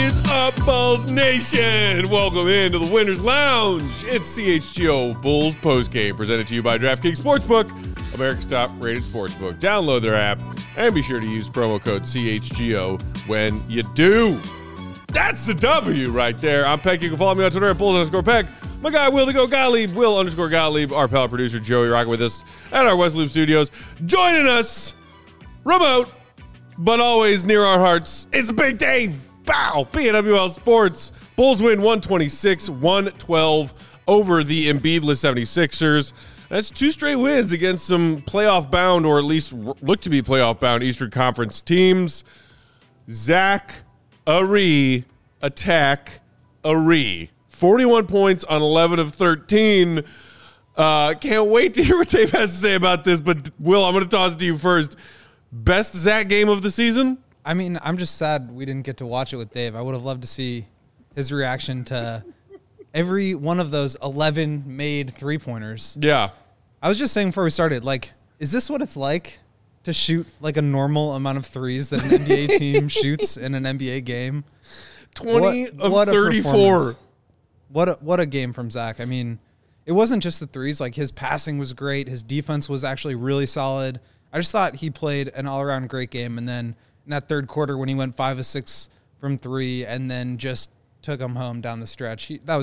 is up, Bulls Nation? Welcome into the Winners Lounge. It's CHGO Bulls Postgame, presented to you by DraftKings Sportsbook, America's top-rated sportsbook. Download their app and be sure to use promo code CHGO when you do. That's the W right there. I'm Peck. You can follow me on Twitter at Bulls_Peck. My guy, Will the Go Gottlieb, Will_Gottlieb. Our pal producer, Joey, rocking with us at our West Loop Studios. Joining us, remote, but always near our hearts, it's Big Dave. Bow! PNWL Sports. Bulls win 126-112 over the Embiidless 76ers. That's two straight wins against some playoff-bound, or at least look to be playoff-bound, Eastern Conference teams. Zach Aree, attack Aree. 41 points on 11 of 13. Can't wait to hear what Dave has to say about this, but Will, I'm going to toss it to you first. Best Zach game of the season? I mean, I'm just sad we didn't get to watch it with Dave. I would have loved to see his reaction to every one of those 11 made three-pointers. Yeah. I was just saying before we started, like, is this what it's like to shoot like a normal amount of threes that an NBA team shoots in an NBA game? 20 of 34. What a game from Zach. I mean, it wasn't just the threes. Like, his passing was great. His defense was actually really solid. I just thought he played an all-around great game. And then in that third quarter when he went 5 of 6 from 3 and then just took him home down the stretch,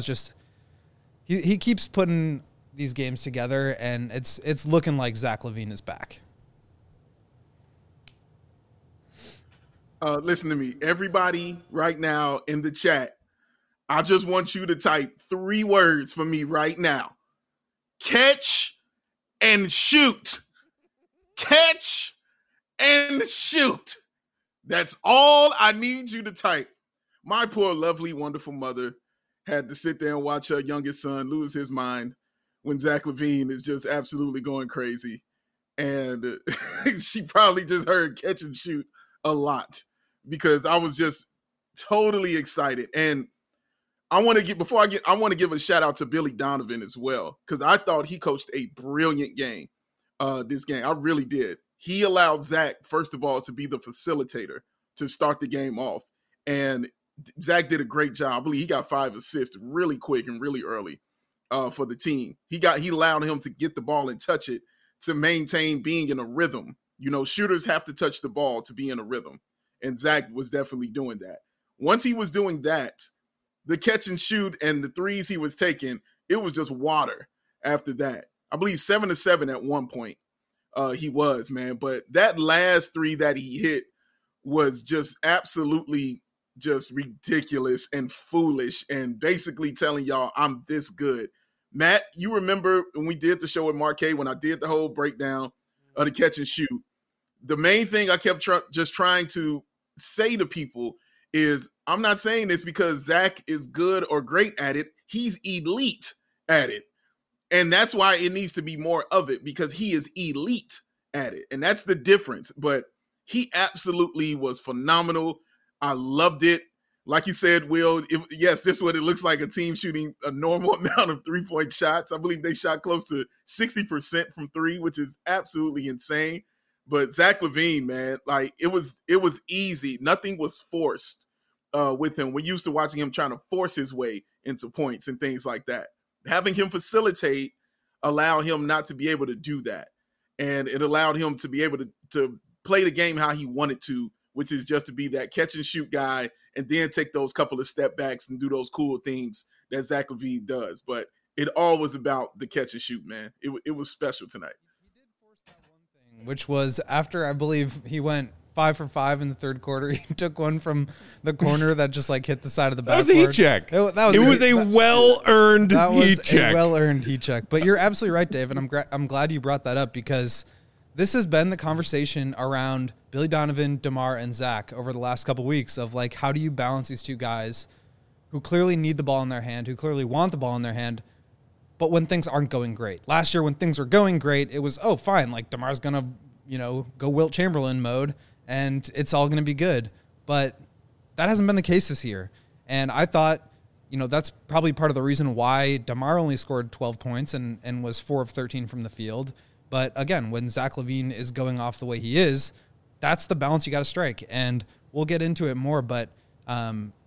he keeps putting these games together, and it's looking like Zach LaVine is back. Listen to me. Everybody right now in the chat, I just want you to type 3 words for me right now. Catch and shoot. Catch and shoot. That's all I need you to type. My poor, lovely, wonderful mother had to sit there and watch her youngest son lose his mind when Zach LaVine is just absolutely going crazy. And she probably just heard catch and shoot a lot because I was just totally excited. And I want to give a shout out to Billy Donovan as well, because I thought he coached a brilliant game this game. I really did. He allowed Zach, first of all, to be the facilitator to start the game off. And Zach did a great job. I believe he got 5 assists really quick and really early for the team. He allowed him to get the ball and touch it to maintain being in a rhythm. You know, shooters have to touch the ball to be in a rhythm. And Zach was definitely doing that. Once he was doing that, the catch and shoot and the threes he was taking, it was just water after that. I believe 7 of 7 at one point he was, man. But that last 3 that he hit was just absolutely just ridiculous and foolish and basically telling y'all I'm this good. Matt, you remember when we did the show with Marquet, when I did the whole breakdown of the catch and shoot, the main thing I kept just trying to say to people is I'm not saying this because Zach is good or great at it. He's elite at it. And that's why it needs to be more of it, because he is elite at it. And that's the difference. But he absolutely was phenomenal. I loved it. Like you said, Will, yes, this is what it looks like, a team shooting a normal amount of three-point shots. I believe they shot close to 60% from 3, which is absolutely insane. But Zach LaVine, man, like it was easy. Nothing was forced with him. We're used to watching him trying to force his way into points and things like that. Having him facilitate allowed him not to be able to do that. And it allowed him to be able to play the game how he wanted to, which is just to be that catch and shoot guy and then take those couple of step backs and do those cool things that Zach LaVine does. But it all was about the catch and shoot, man. It was special tonight. He did force that one thing, which was after, I believe, he went 5 for 5 in the third quarter. He took one from the corner that just like hit the side of the backboard. That was a heat check. It was a well-earned heat check. A well-earned heat check. But you're absolutely right, Dave, and I'm glad you brought that up, because this has been the conversation around Billy Donovan, DeMar, and Zach over the last couple weeks of like, how do you balance these two guys who clearly need the ball in their hand, who clearly want the ball in their hand, but when things aren't going great. Last year, when things were going great, it was, oh, fine, like DeMar's going to, go Wilt Chamberlain mode, and it's all going to be good. But that hasn't been the case this year. And I thought, that's probably part of the reason why DeMar only scored 12 points and was 4 of 13 from the field. But again, when Zach LaVine is going off the way he is, that's the balance you got to strike. And we'll get into it more, but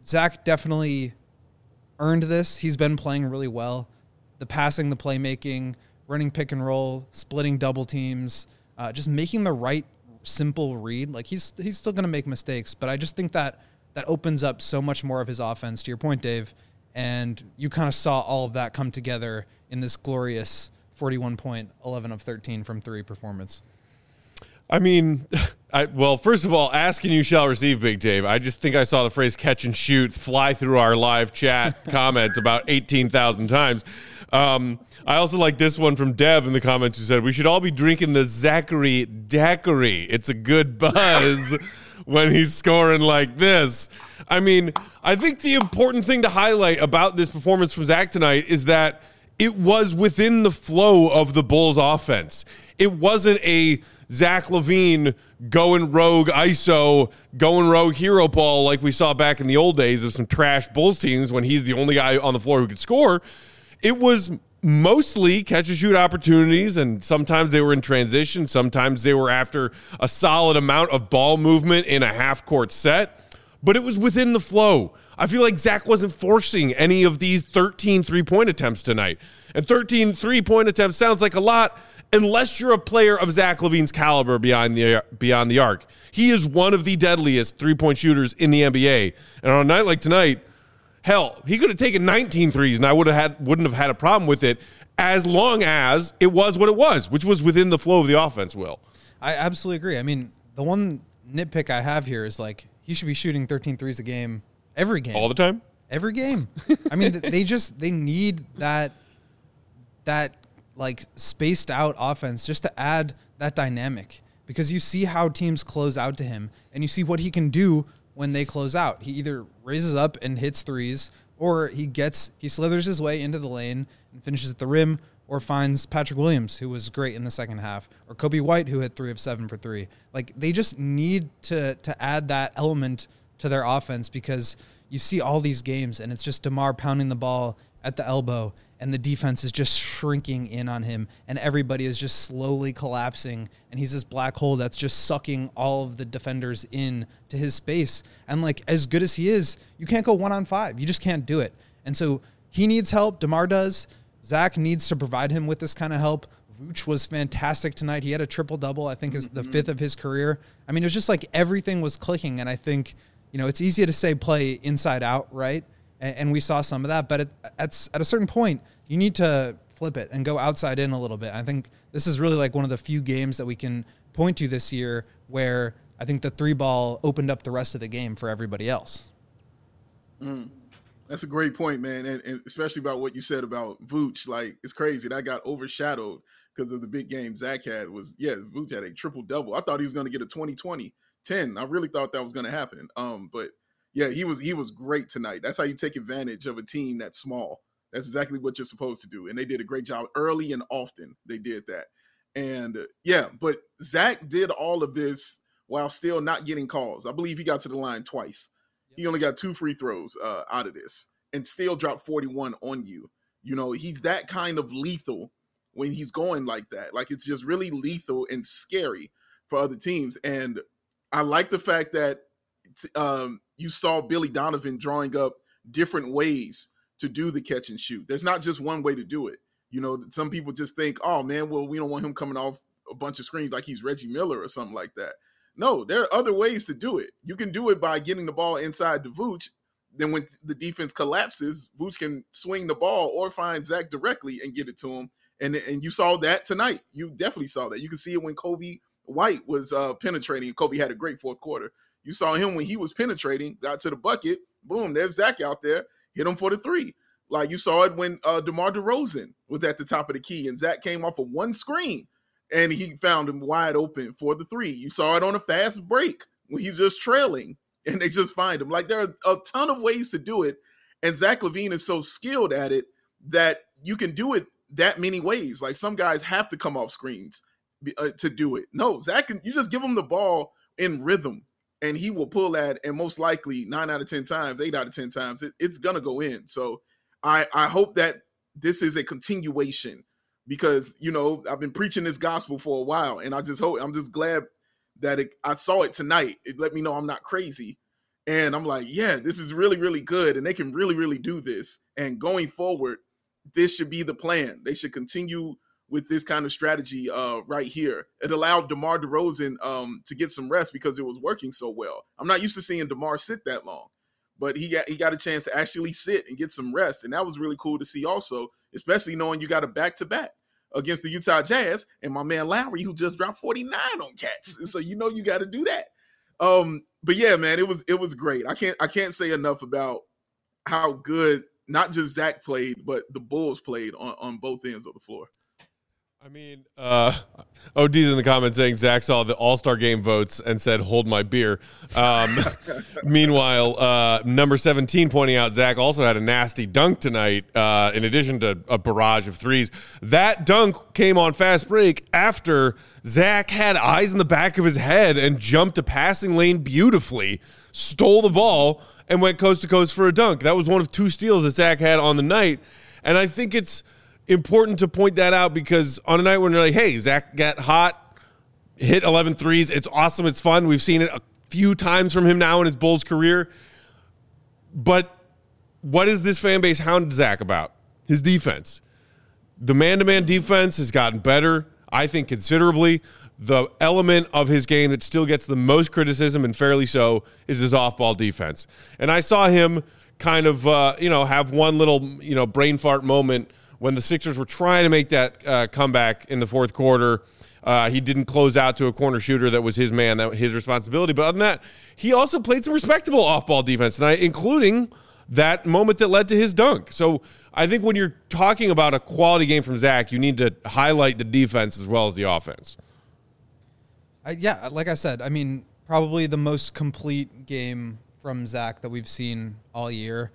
Zach definitely earned this. He's been playing really well. The passing, the playmaking, running pick and roll, splitting double teams, just making the right simple read. Like he's still going to make mistakes, but I just think that opens up so much more of his offense, to your point, Dave. And you kind of saw all of that come together in this glorious 41 point, 11 of 13 from three performance. I mean, well, first of all, ask and you shall receive, Big Dave. I just think I saw the phrase catch and shoot fly through our live chat comments about 18,000 times. I also like this one from Dev in the comments who said, we should all be drinking the Zachary Daiquiri. It's a good buzz when he's scoring like this. I mean, I think the important thing to highlight about this performance from Zach tonight is that it was within the flow of the Bulls offense. It wasn't a Zach LaVine going rogue ISO, going rogue hero ball like we saw back in the old days of some trash Bulls teams when he's the only guy on the floor who could score. It was mostly catch and shoot opportunities, and sometimes they were in transition. Sometimes they were after a solid amount of ball movement in a half-court set, but it was within the flow. I feel like Zach wasn't forcing any of these 13 three-point attempts tonight. And 13 three-point attempts sounds like a lot unless you're a player of Zach LaVine's caliber beyond the arc. He is one of the deadliest three-point shooters in the NBA. And on a night like tonight, hell, he could have taken 19 threes and I wouldn't have had a problem with it as long as it was what it was, which was within the flow of the offense, Will. I absolutely agree. I mean, the one nitpick I have here is like he should be shooting 13 threes a game. Every game. All the time? Every game. I mean, they need that like spaced out offense just to add that dynamic, because you see how teams close out to him and you see what he can do when they close out. He either raises up and hits threes, or he slithers his way into the lane and finishes at the rim, or finds Patrick Williams, who was great in the second half, or Kobe White, who hit 3 of 7 for 3. Like, they just need to add that element to their offense, because you see all these games and it's just DeMar pounding the ball at the elbow and the defense is just shrinking in on him and everybody is just slowly collapsing and he's this black hole that's just sucking all of the defenders in to his space. And like, as good as he is, you can't go 1-on-5. You just can't do it. And so he needs help. DeMar does. Zach needs to provide him with this kind of help. Vooch was fantastic tonight. He had a triple-double, I think is the 5th of his career. I mean, it was just like everything was clicking. And I think, you know, it's easy to say play inside out, right? And we saw some of that. But at a certain point, you need to flip it and go outside in a little bit. I think this is really like one of the few games that we can point to this year where I think the 3-ball opened up the rest of the game for everybody else. That's a great point, man. And especially about what you said about Vooch. Like, it's crazy. That got overshadowed because of the big game Zach had. Vooch had a triple-double. I thought he was going to get a 20-20. 10. I really thought that was going to happen. But yeah, he was great tonight. That's how you take advantage of a team that's small. That's exactly what you're supposed to do. And they did a great job early and often. They did that. And yeah, but Zach did all of this while still not getting calls. I believe he got to the line twice. He only got 2 free throws out of this and still dropped 41 on you. You know, he's that kind of lethal when he's going like that. Like, it's just really lethal and scary for other teams. And I like the fact that you saw Billy Donovan drawing up different ways to do the catch and shoot. There's not just one way to do it. You know, some people just think, oh, man, well, we don't want him coming off a bunch of screens like he's Reggie Miller or something like that. No, there are other ways to do it. You can do it by getting the ball inside the Vooch. Then when the defense collapses, Vooch can swing the ball or find Zach directly and get it to him. And you saw that tonight. You definitely saw that. You can see it when Kobe White was penetrating. Kobe had a great fourth quarter. You saw him when he was penetrating, got to the bucket. Boom, there's Zach out there. Hit him for the 3. Like, you saw it when DeMar DeRozan was at the top of the key and Zach came off of one screen and he found him wide open for the 3. You saw it on a fast break when he's just trailing and they just find him. Like, there are a ton of ways to do it. And Zach LaVine is so skilled at it that you can do it that many ways. Like, some guys have to come off screens to do it. No, Zach, you just give him the ball in rhythm and he will pull that, and most likely 9 out of 10 times, 8 out of 10 times, it's going to go in. So I hope that this is a continuation because, you know, I've been preaching this gospel for a while, and I'm just glad that I saw it tonight. It let me know I'm not crazy. And I'm like, yeah, this is really, really good. And they can really, really do this. And going forward, this should be the plan. They should continue with this kind of strategy right here. It allowed DeMar DeRozan to get some rest because it was working so well. I'm not used to seeing DeMar sit that long, but he got a chance to actually sit and get some rest. And that was really cool to see also, especially knowing you got a back-to-back against the Utah Jazz and my man Lowry, who just dropped 49 on Cats. So you got to do that. But yeah, man, it was great. I can't say enough about how good not just Zach played, but the Bulls played on both ends of the floor. I mean, OD's in the comments saying Zach saw the All-Star game votes and said, hold my beer. Meanwhile, number 17 pointing out Zach also had a nasty dunk tonight in addition to a barrage of threes. That dunk came on fast break after Zach had eyes in the back of his head and jumped a passing lane beautifully, stole the ball, and went coast to coast for a dunk. That was one of 2 steals that Zach had on the night. And I think it's important to point that out because on a night when you're like, hey, Zach got hot, hit 11 threes. It's awesome. It's fun. We've seen it a few times from him now in his Bulls career. But what is this fan base hounded Zach about? His defense. The man-to-man defense has gotten better, I think, considerably. The element of his game that still gets the most criticism, and fairly so, is his off-ball defense. And I saw him kind of, have one little, brain fart moment when the Sixers were trying to make that comeback in the fourth quarter. He didn't close out to a corner shooter that was his man, that was his responsibility. But other than that, he also played some respectable off-ball defense tonight, including that moment that led to his dunk. So I think when you're talking about a quality game from Zach, you need to highlight the defense as well as the offense. Yeah, like I said, I mean, probably the most complete game from Zach that we've seen all year.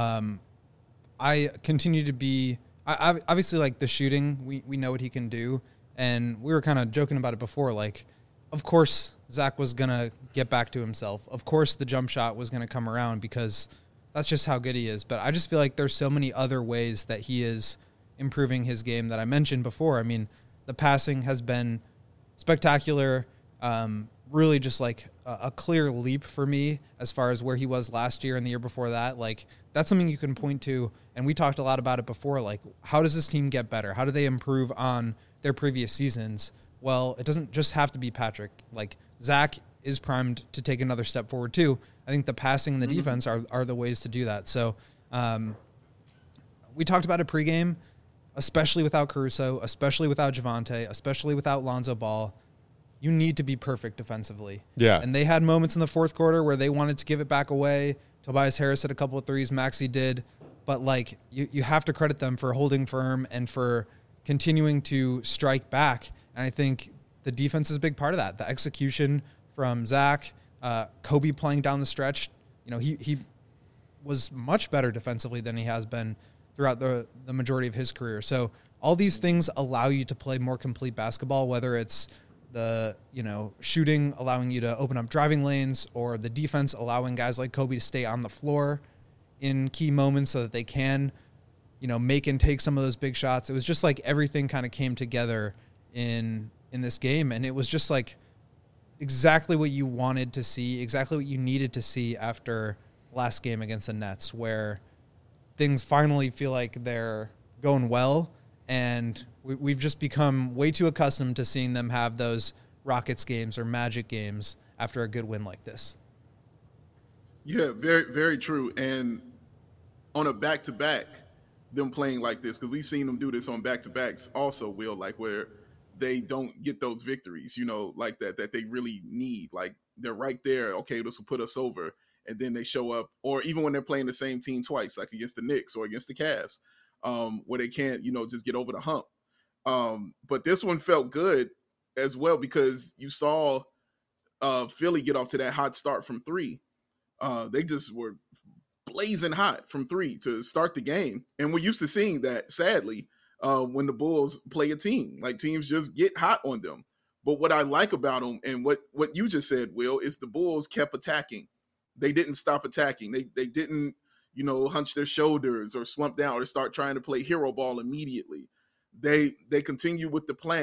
I continue to be... I obviously, like, the shooting, we know what he can do, and we were kind of joking about it before. Like, of course, Zach was going to get back to himself. Of course, the jump shot was going to come around because that's just how good he is. But I just feel like there's so many other ways that he is improving his game that I mentioned before. I mean, the passing has been spectacular, really just like a clear leap for me as far as where he was last year and the year before that. Like, that's something you can point to, and we talked a lot about it before. Like, how does this team get better? How do they improve on their previous seasons? Well, it doesn't just have to be Patrick. Like, Zach is primed to take another step forward too. I think the passing and the defense are the ways to do that. So we talked about it pregame, especially without Caruso, especially without Javonte, especially without Lonzo Ball. You need to be perfect defensively. Yeah. And they had moments in the fourth quarter where they wanted to give it back away. Tobias Harris hit a couple of threes. Maxey did. But, like, you have to credit them for holding firm and for continuing to strike back. And I think the defense is a big part of that. The execution from Zach, Kobe playing down the stretch. He was much better defensively than he has been throughout the majority of his career. So all these things allow you to play more complete basketball, whether it's the shooting allowing you to open up driving lanes, or the defense allowing guys like Kobe to stay on the floor in key moments so that they can make and take some of those big shots. It was just like everything kind of came together in this game, and it was just like exactly what you wanted to see, exactly what you needed to see after last game against the Nets, where things finally feel like they're going well. And we've just become way too accustomed to seeing them have those Rockets games or Magic games after a good win like this. Yeah, very, very true. And on a back-to-back, them playing like this, because we've seen them do this on back-to-backs also, Will, like where they don't get those victories, like that they really need. Like, they're right there. Okay, this will put us over. And then they show up, or even when they're playing the same team twice, like against the Knicks or against the Cavs, where they can't, just get over the hump. But this one felt good as well because you saw Philly get off to that hot start from three. They just were blazing hot from three to start the game. And we're used to seeing that, sadly, when the Bulls play a team. Like, teams just get hot on them. But what I like about them, and what you just said, Will, is the Bulls kept attacking. They didn't stop attacking. They didn't, hunch their shoulders or slump down or start trying to play hero ball immediately. They continue with the plan.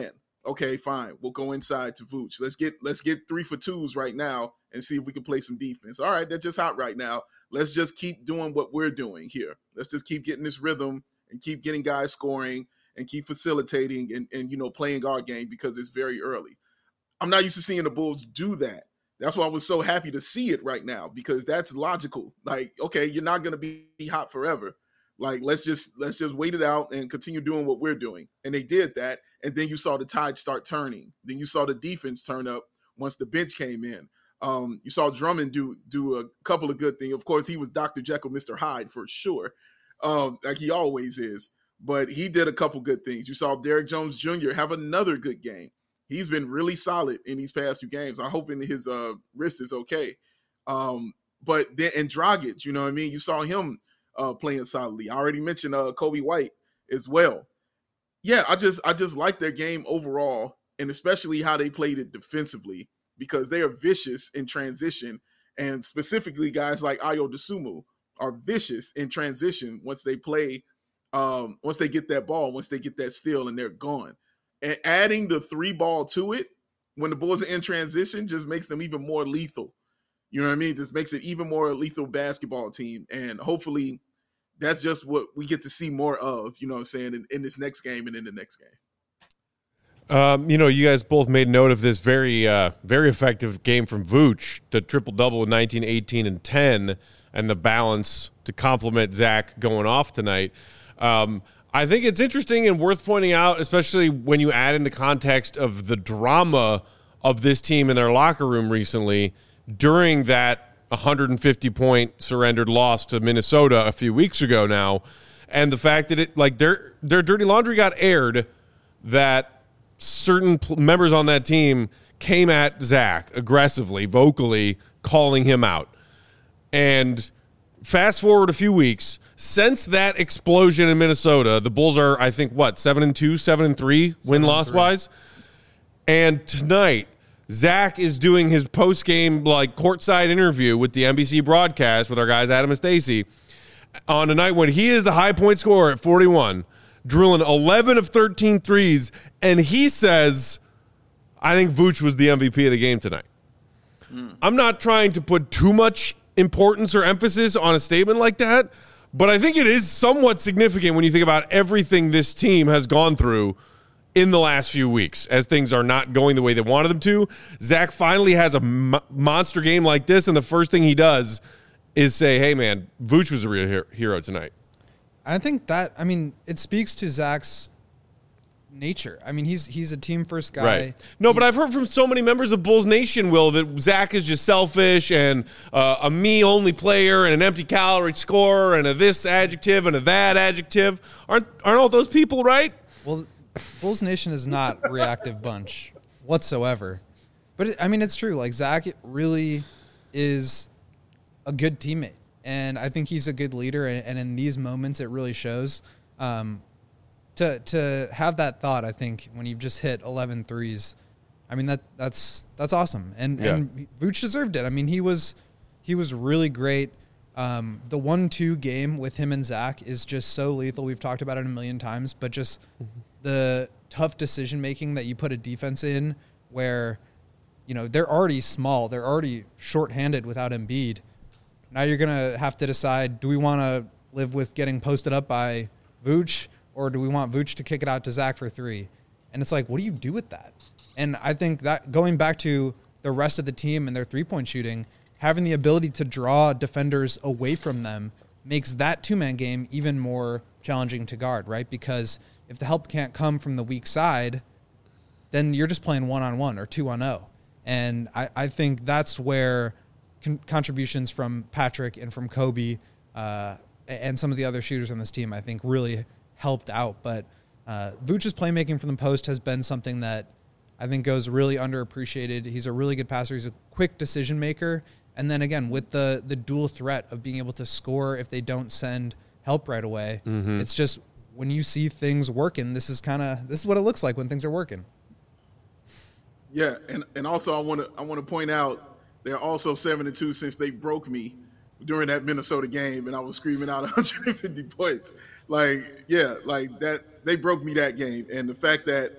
Okay, fine. We'll go inside to Vooch. Let's get 3-for-2s right now and see if we can play some defense. All right, they're just hot right now. Let's just keep doing what we're doing here. Let's just keep getting this rhythm and keep getting guys scoring and keep facilitating and playing our game because it's very early. I'm not used to seeing the Bulls do that. That's why I was so happy to see it right now, because that's logical. Like, okay, you're not going to be hot forever. Like, let's just wait it out and continue doing what we're doing. And they did that. And then you saw the tide start turning. Then you saw the defense turn up once the bench came in. You saw Drummond do a couple of good things. Of course, he was Dr. Jekyll, Mr. Hyde for sure, like he always is. But he did a couple good things. You saw Derrick Jones Jr. have another good game. He's been really solid in these past 2 games. I'm hoping his wrist is okay. But then, and Dragic, you know what I mean? You saw him playing solidly. I already mentioned Kobe White as well. Yeah, I just like their game overall, and especially how they played it defensively, because they are vicious in transition, and specifically guys like Ayo Dosunmu are vicious in transition once they play, once they get that ball, once they get that steal, and they're gone. And adding the 3-ball to it when the Bulls are in transition just makes them even more lethal. You know what I mean? Just makes it even more lethal basketball team. And hopefully that's just what we get to see more of, you know what I'm saying, in this next game and in the next game. You guys both made note of this very effective game from Vooch, the triple-double with 19, 18, and 10, and the balance to complement Zach going off tonight. I think it's interesting and worth pointing out, especially when you add in the context of the drama of this team in their locker room recently during that 150-point surrendered loss to Minnesota a few weeks ago now, and the fact that their dirty laundry got aired, that certain members on that team came at Zach aggressively, vocally calling him out. And fast forward a few weeks, since that explosion in Minnesota, the Bulls are, I think, 7-2, 7-3 win-loss wise. And tonight, Zach is doing his post-game courtside interview with the NBC broadcast with our guys Adam and Stacey on a night when he is the high point scorer at 41, drilling 11 of 13 threes, and he says, I think Vooch was the MVP of the game tonight. I'm not trying to put too much importance or emphasis on a statement like that, but I think it is somewhat significant when you think about everything this team has gone through in the last few weeks as things are not going the way they wanted them to. Zach finally has a monster game like this, and the first thing he does is say, hey, man, Vooch was a real hero tonight. I think it speaks to Zach's nature. I mean, he's a team first guy. Right. No, but I've heard from so many members of Bulls Nation, Will, that Zach is just selfish and a me-only player and an empty calorie scorer and a this adjective and a that adjective. Aren't all those people right? Well, Bulls Nation is not a reactive bunch whatsoever. But, it's true. Like, Zach really is a good teammate. And I think he's a good leader. And in these moments, it really shows. To have that thought, I think, when you've just hit 11 threes, that's awesome. And Vooch deserved it. He was really great. The 1-2 game with him and Zach is just so lethal. We've talked about it a million times, but just the tough decision making that you put a defense in where, they're already small, they're already shorthanded without Embiid. Now you're gonna have to decide: do we want to live with getting posted up by Vooch, or do we want Vooch to kick it out to Zach for 3? And it's like, what do you do with that? And I think that going back to the rest of the team and their 3-point shooting, having the ability to draw defenders away from them makes that 2-man game even more challenging to guard, right? Because if the help can't come from the weak side, then you're just playing 1-on-1 or 2-on-0. And I think that's where contributions from Patrick and from Kobe and some of the other shooters on this team, I think, really helped out. But Vooch's playmaking from the post has been something that I think goes really underappreciated. He's a really good passer. He's a quick decision maker. And then again, with the dual threat of being able to score if they don't send help right away, it's just when you see things working, this is what it looks like when things are working. Yeah, and also I want to point out they're also 7-2 since they broke me during that Minnesota game, and I was screaming out 150 points. That they broke me that game, and the fact that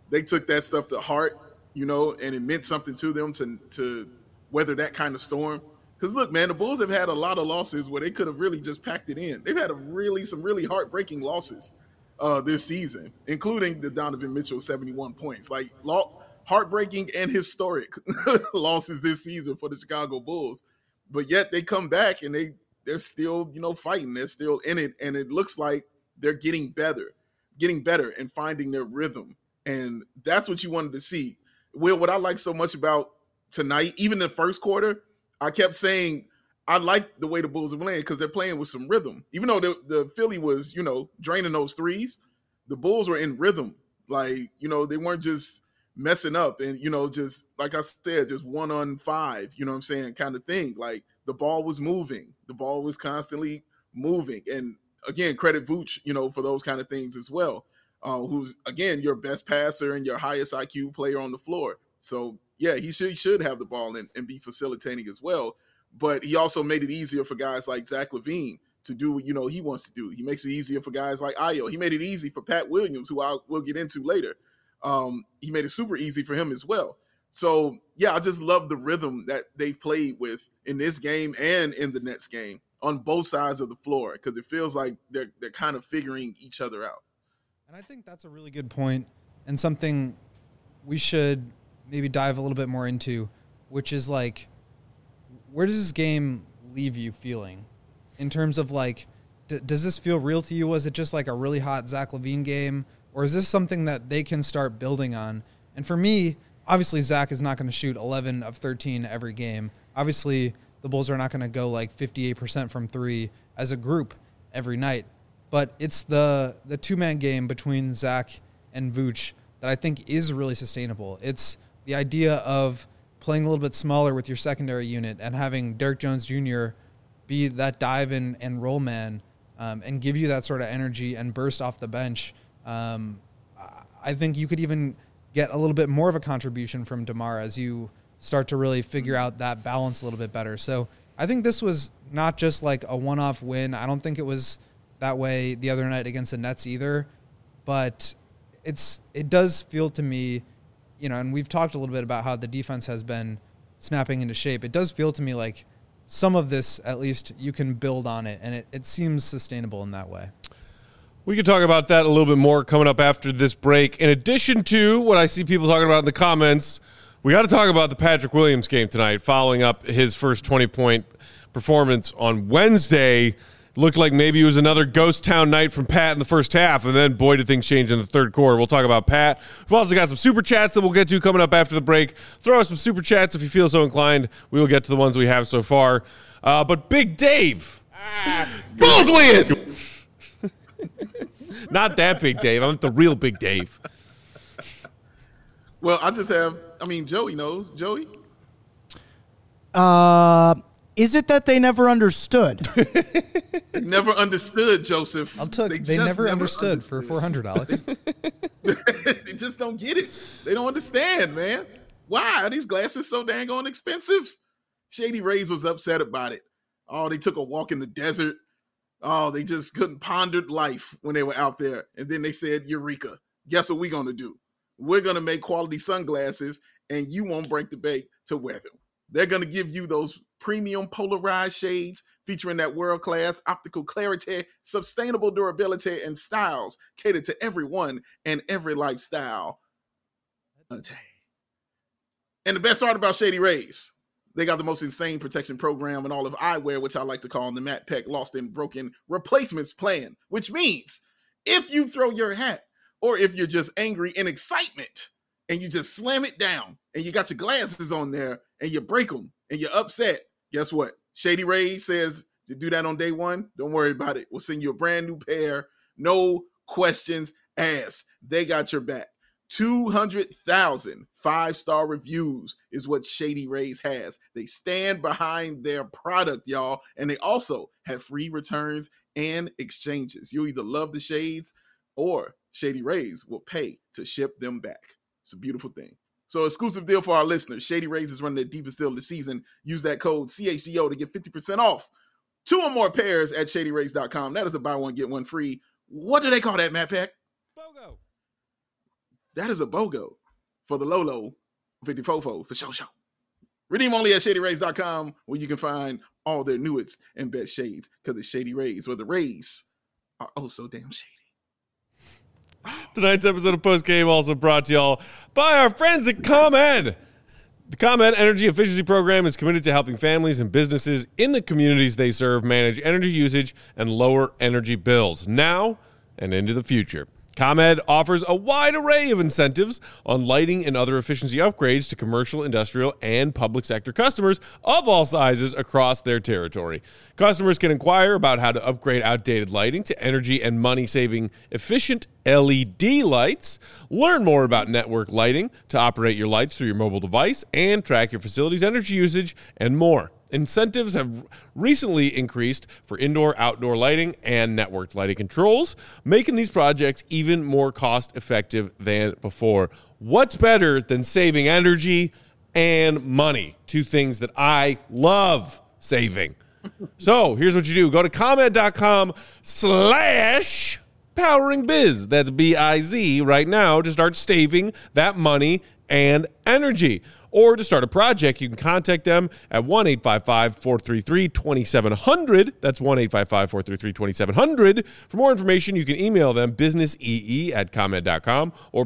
they took that stuff to heart, and it meant something to them to weather that kind of storm. Because look, man, the Bulls have had a lot of losses where they could have really just packed it in. They've had some really heartbreaking losses this season, including the Donovan Mitchell 71 points. Like heartbreaking and historic losses this season for the Chicago Bulls. But yet they come back and they're still, fighting. They're still in it. And it looks like they're getting better and finding their rhythm. And that's what you wanted to see. Will, what I like so much about tonight, even the first quarter, I kept saying I like the way the Bulls are playing because they're playing with some rhythm. Even though the Philly was, draining those threes, the Bulls were in rhythm. Like, they weren't just messing up and, just like I said, just 1 on 5, kind of thing. Like the ball was moving. The ball was constantly moving. And again, credit Vooch, for those kind of things as well. Who's, again, your best passer and your highest IQ player on the floor. So, yeah, he should have the ball and be facilitating as well. But he also made it easier for guys like Zach LaVine to do what, he wants to do. He makes it easier for guys like Ayo. He made it easy for Pat Williams, who we'll get into later. He made it super easy for him as well. So, yeah, I just love the rhythm that they've played with in this game and in the Nets game on both sides of the floor because it feels like they're kind of figuring each other out. And I think that's a really good point and something we should maybe dive a little bit more into, which is like, where does this game leave you feeling in terms of like, does this feel real to you? Was it just like a really hot Zach LaVine game, or is this something that they can start building on? And for me, obviously Zach is not going to shoot 11 of 13 every game. Obviously the Bulls are not going to go like 58% from three as a group every night. But it's the two-man game between Zach and Vooch that I think is really sustainable. It's the idea of playing a little bit smaller with your secondary unit and having Derrick Jones Jr. be that dive and roll man and give you that sort of energy and burst off the bench. I think you could even get a little bit more of a contribution from DeMar as you start to really figure out that balance a little bit better. So I think this was not just like a one-off win. I don't think it was that way the other night against the Nets either, but it does feel to me, and we've talked a little bit about how the defense has been snapping into shape. It does feel to me like some of this, at least, you can build on it, and it seems sustainable in that way. We can talk about that a little bit more coming up after this break. In addition to what I see people talking about in the comments, we got to talk about the Patrick Williams game tonight, following up his first 20-point performance on Wednesday. Looked like maybe it was another ghost town night from Pat in the first half, and then, boy, did things change in the third quarter. We'll talk about Pat. We've also got some Super Chats that we'll get to coming up after the break. Throw us some Super Chats if you feel so inclined. We will get to the ones we have so far. But Big Dave. Bulls win! Not that Big Dave. I'm the real Big Dave. Well, Joey knows. Joey? Is it that they never understood? They never understood, Joseph. They never understood for 400, Alex. They just don't get it. They don't understand, man. Why are these glasses so dang on expensive? Shady Rays was upset about it. Oh, they took a walk in the desert. Oh, they just couldn't ponder life when they were out there. And then they said, Eureka, guess what we're going to do? We're going to make quality sunglasses, and you won't break the bank to wear them. They're going to give you those premium polarized shades featuring that world-class optical clarity, sustainable durability, and styles catered to everyone and every lifestyle. And the best part about Shady Rays, they got the most insane protection program in all of eyewear, which I like to call the Matt Peck Lost and Broken Replacements Plan, which means if you throw your hat or if you're just angry in excitement and you just slam it down and you got your glasses on there and you break them and you're upset, guess what? Shady Rays says to do that on day one. Don't worry about it. We'll send you a brand new pair. No questions asked. They got your back. 200,000 5-star reviews is what Shady Rays has. They stand behind their product, y'all. And they also have free returns and exchanges. You either love the shades or Shady Rays will pay to ship them back. It's a beautiful thing. So exclusive deal for our listeners. Shady Rays is running their deepest deal of the season. Use that code CHGO to get 50% off 2 or more pairs at shadyrays.com. That is a buy one, get one free. What do they call that, Matt Peck? BOGO. That is a BOGO for the Lolo 54 for show. Redeem only at ShadyRays.com, where you can find all their newest and best shades, because it's Shady Rays, where the Rays are oh so damn shady. Tonight's episode of Post Game also brought to y'all by our friends at ComEd. The ComEd Energy Efficiency Program is committed to helping families and businesses in the communities they serve manage energy usage and lower energy bills now and into the future. ComEd offers a wide array of incentives on lighting and other efficiency upgrades to commercial, industrial, and public sector customers of all sizes across their territory. Customers can inquire about how to upgrade outdated lighting to energy and money-saving efficient LED lights, learn more about network lighting to operate your lights through your mobile device, and track your facility's energy usage, and more. Incentives have recently increased for indoor, outdoor lighting and networked lighting controls, making these projects even more cost-effective than before. What's better than saving energy and money? Two things that I love saving. So here's what you do. Go to ComEd.com/poweringbiz. That's B-I-Z right now to start saving that money and energy. Or to start a project, you can contact them at 1-855-433-2700. That's 1-855-433-2700. For more information, you can email them businessee@comed.com or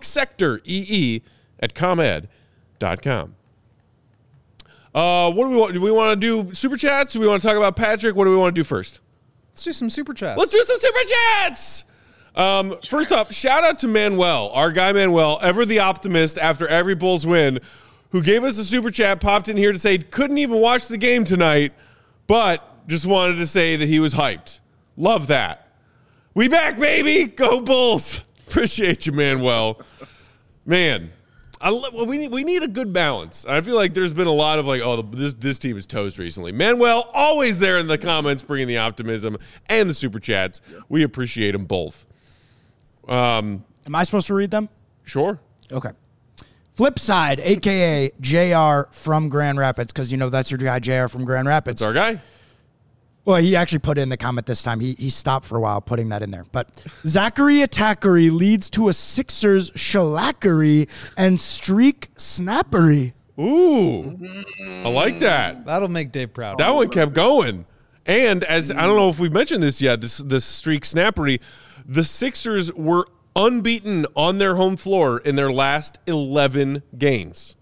publicsectoree@comed.com. What do we want? Do we want to do super chats? Do we want to talk about Patrick? What do we want to do first? Let's do some super chats. Let's do some super chats. First off, shout out to Manuel, our guy Manuel, ever the optimist after every Bulls win, who gave us a super chat, popped in here to say couldn't even watch the game tonight, but just wanted to say that he was hyped. Love that. We back, baby. Go Bulls. Appreciate you, Manuel. Man, we need a good balance. I feel like there's been a lot of this team is toast recently. Manuel, always there in the comments, bringing the optimism and the super chats. We appreciate them both. Am I supposed to read them? Sure. Okay. Flipside, a.k.a. JR from Grand Rapids, because, that's your guy, JR from Grand Rapids. It's our guy. Well, he actually put in the comment this time. He stopped for a while putting that in there. But Zachary Attackery leads to a Sixers shellackery and streak snappery. Ooh, I like that. That'll make Dave proud. That one kept going. And as I don't know if we've mentioned this yet, this streak snappery, the Sixers were unbeaten on their home floor in their last 11 games.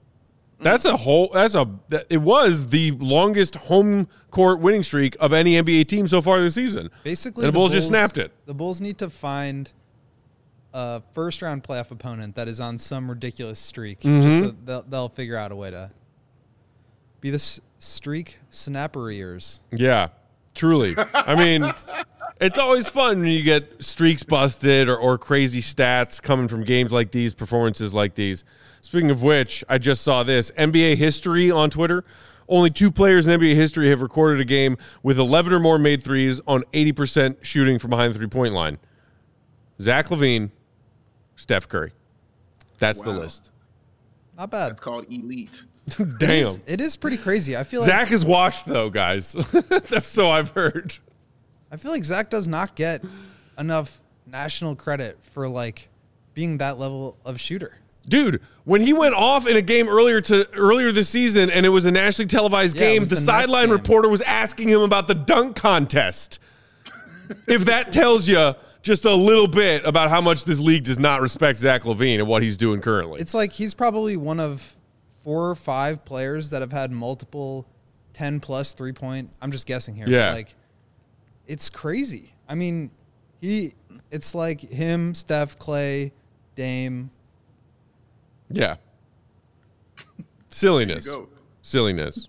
It was the longest home court winning streak of any NBA team so far this season. Basically, and the Bulls just snapped it. The Bulls need to find a first-round playoff opponent that is on some ridiculous streak. Just so they'll figure out a way to be the streak snapperiers. Yeah, truly. I mean, it's always fun when you get streaks busted or crazy stats coming from games like these, performances like these. Speaking of which, I just saw this. NBA history on Twitter. Only 2 players in NBA history have recorded a game with 11 or more made threes on 80% shooting from behind the three-point line. Zach LaVine, Steph Curry. That's the list. Not bad. That's called elite. Damn. It is pretty crazy. I feel like Zach is washed, though, guys. That's so I've heard. I feel like Zach does not get enough national credit for, being that level of shooter. Dude, when he went off in a game earlier this season and it was a nationally televised game, the sideline reporter was asking him about the dunk contest. If that tells you just a little bit about how much this league does not respect Zach LaVine and what he's doing currently. It's like he's probably one of 4 or 5 players that have had multiple 10-plus three-point. I'm just guessing here. Yeah. It's crazy. I mean, it's like him, Steph, Clay, Dame. Yeah. Silliness. Silliness.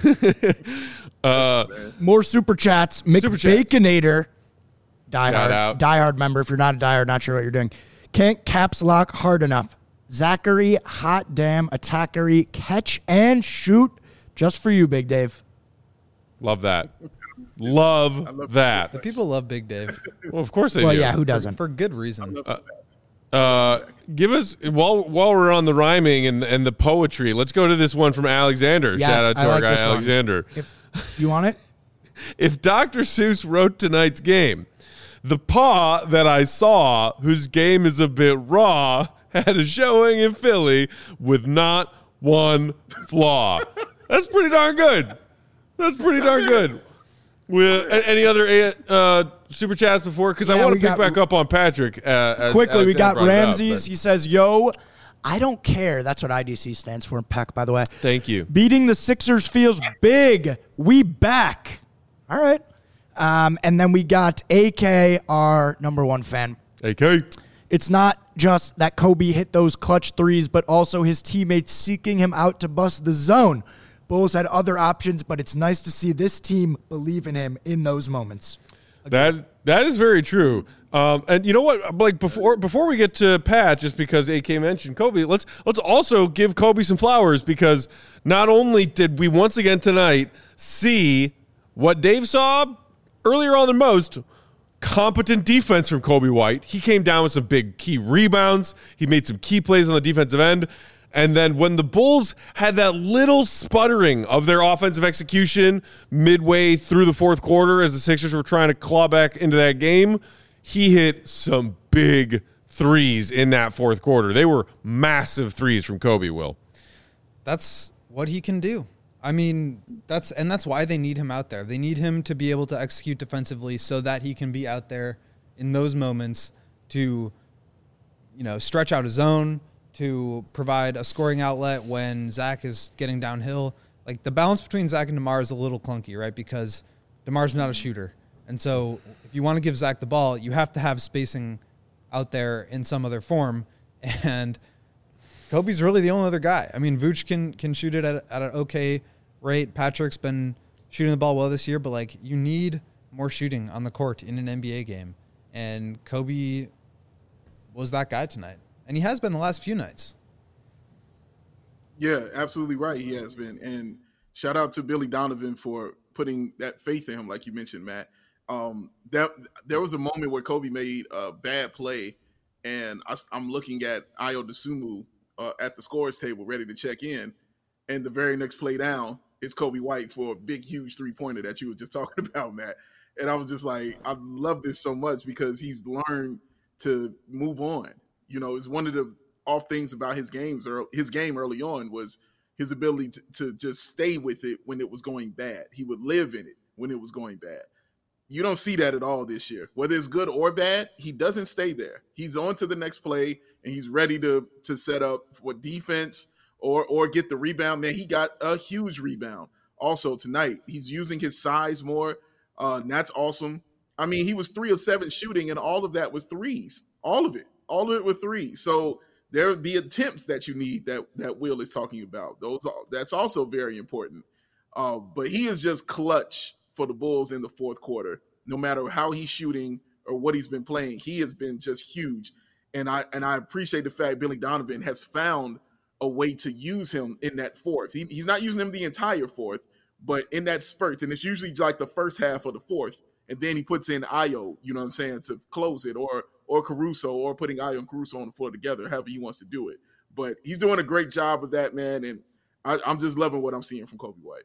More super chats. McBaconator. Die-hard member. If you're not a die-hard, not sure what you're doing. Can't caps lock hard enough. Zachary, hot damn, attackery, catch and shoot. Just for you, Big Dave. Love that. Love that. The people love Big Dave. Well, of course they do. Well, yeah, who doesn't? For good reason. Give us while we're on the rhyming and the poetry. Let's go to this one from Alexander. Yes, shout out to I our like guy this one. Alexander. If you want it? If Dr. Seuss wrote tonight's game, the paw that I saw, whose game is a bit raw, had a showing in Philly with not one flaw. That's pretty darn good. That's pretty darn good. Any other super chats before? Because I want to pick back up on Patrick. Quickly, we got Ramses. He says, yo, I don't care. That's what IDC stands for, PEC, by the way. Thank you. Beating the Sixers feels big. We back. All right. And then we got AK, our number one fan. AK. It's not just that Kobe hit those clutch threes, but also his teammates seeking him out to bust the zone. Bulls had other options, but it's nice to see this team believe in him in those moments. That is very true. And you know what? Like before we get to Pat, just because AK mentioned Kobe, let's also give Kobe some flowers, because not only did we once again tonight see what Dave saw earlier on than most, competent defense from Kobe White. He came down with some big key rebounds. He made some key plays on the defensive end. And then when the Bulls had that little sputtering of their offensive execution midway through the fourth quarter as the Sixers were trying to claw back into that game, he hit some big threes in that fourth quarter. They were massive threes from Kobe, Will. That's what he can do. I mean, that's why they need him out there. They need him to be able to execute defensively so that he can be out there in those moments to, stretch out his zone, to provide a scoring outlet when Zach is getting downhill. Like, the balance between Zach and DeMar is a little clunky, right? Because DeMar's not a shooter. And so if you want to give Zach the ball, you have to have spacing out there in some other form. And Kobe's really the only other guy. I mean, Vooch can shoot it at an okay rate. Patrick's been shooting the ball well this year, but, you need more shooting on the court in an NBA game. And Kobe was that guy tonight. And he has been the last few nights. Yeah, absolutely right. He has been. And shout out to Billy Donovan for putting that faith in him, like you mentioned, Matt. There was a moment where Kobe made a bad play, and I'm looking at Ayo Dosunmu at the scorer's table ready to check in. And the very next play down, it's Kobe White for a big, huge three-pointer that you were just talking about, Matt. And I was just like, I love this so much because he's learned to move on. It's one of the off things about his game early on was his ability to just stay with it when it was going bad. He would live in it when it was going bad. You don't see that at all this year. Whether it's good or bad, he doesn't stay there. He's on to the next play, and he's ready to set up for defense or get the rebound. Man, he got a huge rebound also tonight. He's using his size more, and that's awesome. I mean, he was 3 of 7 shooting, and all of that was threes. All of it were threes. So they're the attempts that you need that Will is talking about. That's also very important. But he is just clutch for the Bulls in the fourth quarter. No matter how he's shooting or what he's been playing, he has been just huge. And I appreciate the fact Billy Donovan has found a way to use him in that fourth. He's not using him the entire fourth, but in that spurt, and it's usually like the first half of the fourth, and then he puts in Ayo, to close it, or Caruso, or putting Ayo and Caruso on the floor together, however he wants to do it. But he's doing a great job of that, man, and I'm just loving what I'm seeing from Kobe White.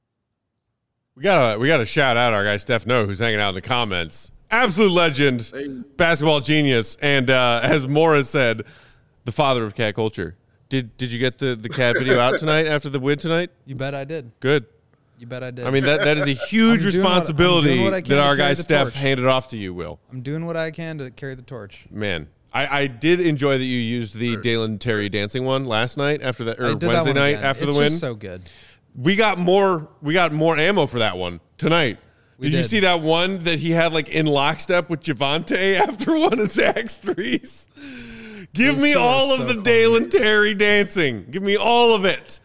We gotta shout out our guy Steph No, who's hanging out in the comments. Absolute legend, basketball genius, and as Morris said, the father of cat culture. Did you get the cat video out tonight after the win tonight? You bet I did. Good. You bet I did. I mean, that is a huge responsibility that our guy Steph handed off to you, Will. I'm doing what I can to carry the torch. Man, I did enjoy that you used the Dalen Terry dancing one last night after that, or Wednesday night after the win. It's just so good. We got more ammo for that one tonight. Did you see that one that he had in lockstep with Javonte after one of Zach's threes? Give me all of the Dalen Terry dancing. Give me all of it.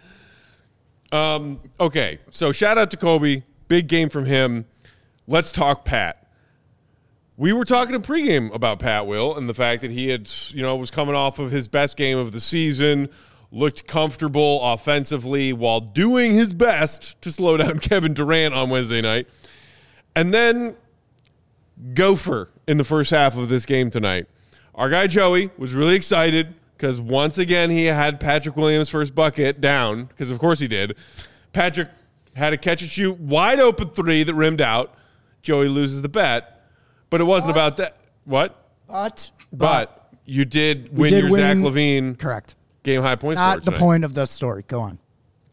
Okay, so shout out to Kobe. Big game from him. Let's talk Pat. We were talking in pregame about Pat, Will, and the fact that he had, was coming off of his best game of the season, looked comfortable offensively while doing his best to slow down Kevin Durant on Wednesday night. And then Gopher in the first half of this game tonight. Our guy Joey was really excited because once again he had Patrick Williams' first bucket down, because of course he did. Patrick had a catch and shoot wide open three that rimmed out. Joey loses the bet, but it wasn't about that. What? But You did win your Zach LaVine. Correct. Game high points. Not the point of the story. Go on.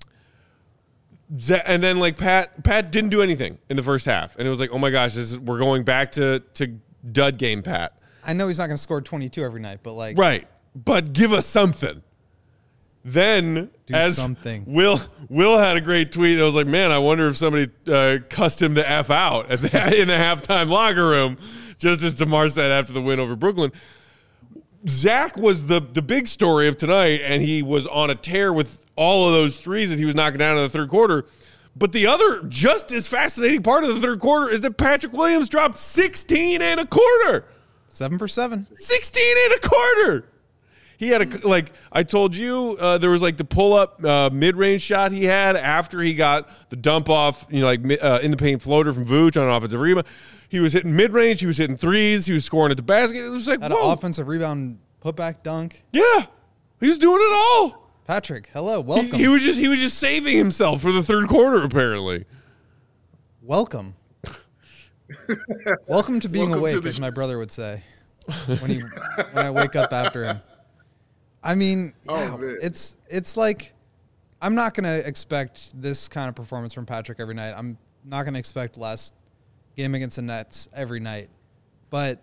And then like Pat didn't do anything in the first half, and it was like, oh my gosh, we're going back to dud game Pat. I know he's not going to score 22 every night, but like right, but give us something. Then something. Will had a great tweet that was like, man, I wonder if somebody cussed him the F out in the halftime locker room, just as DeMar said after the win over Brooklyn. Zach was the big story of tonight, and he was on a tear with all of those threes that he was knocking down in the third quarter. But the other just as fascinating part of the third quarter is that Patrick Williams dropped 16 and a quarter. 7 for 7. 16 and a quarter. He had I told you, there was like the pull-up mid-range shot he had after he got the dump off, in the paint floater from Vooch on an offensive rebound. He was hitting mid-range. He was hitting threes. He was scoring at the basket. It was like, an offensive rebound putback dunk. Yeah. He was doing it all. Patrick, hello, welcome. He was just saving himself for the third quarter, apparently. Welcome. Welcome to being awake, as my brother would say when I wake up after him. I mean, it's like I'm not going to expect this kind of performance from Patrick every night. I'm not going to expect last game against the Nets every night. But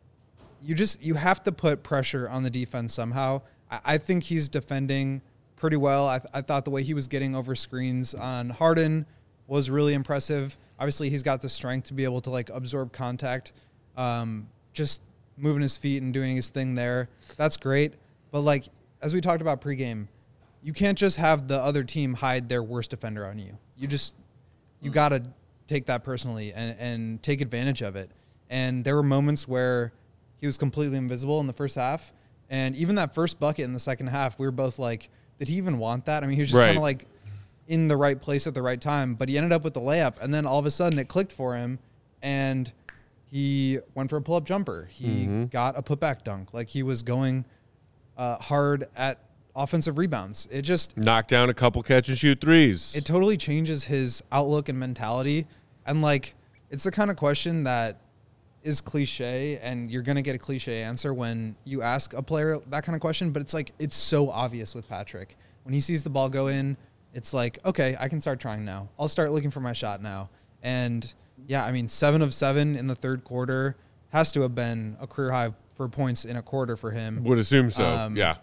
you have to put pressure on the defense somehow. I think he's defending pretty well. I thought the way he was getting over screens on Harden was really impressive. Obviously, he's got the strength to be able to like absorb contact, just moving his feet and doing his thing there. That's great. But like as we talked about pregame, you can't just have the other team hide their worst defender on you. You got to take that personally and take advantage of it. And there were moments where he was completely invisible in the first half. And even that first bucket in the second half, we were both like, did he even want that? I mean, he was just kind of like in the right place at the right time, but he ended up with the layup. And then all of a sudden it clicked for him and he went for a pull-up jumper. He got a putback dunk. Like he was going hard at offensive rebounds. It just knocked down a couple catch and shoot threes. It totally changes his outlook and mentality. And like, it's the kind of question that is cliche, and you're going to get a cliche answer when you ask a player that kind of question, but it's like, it's so obvious with Patrick. When he sees the ball go in, it's like, okay, I can start trying now. I'll start looking for my shot now. And yeah, I mean, 7 of 7 in the third quarter has to have been a career high for points in a quarter for him. Would assume so. Yeah.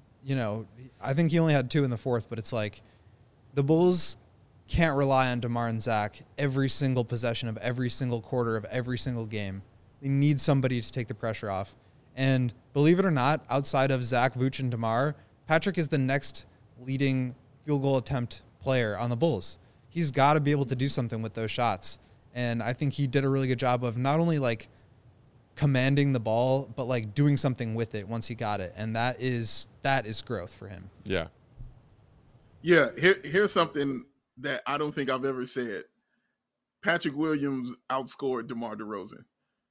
I think he only had 2 in the fourth, but it's like the Bulls can't rely on DeMar and Zach every single possession of every single quarter of every single game. They need somebody to take the pressure off. And believe it or not, outside of Zach, Vooch, and DeMar, Patrick is the next leading field goal attempt player on the Bulls. He's got to be able to do something with those shots. And I think he did a really good job of not only like commanding the ball, but like doing something with it once he got it. And that is growth for him. Yeah. Yeah. Here's something that I don't think I've ever said. Patrick Williams outscored DeMar DeRozan.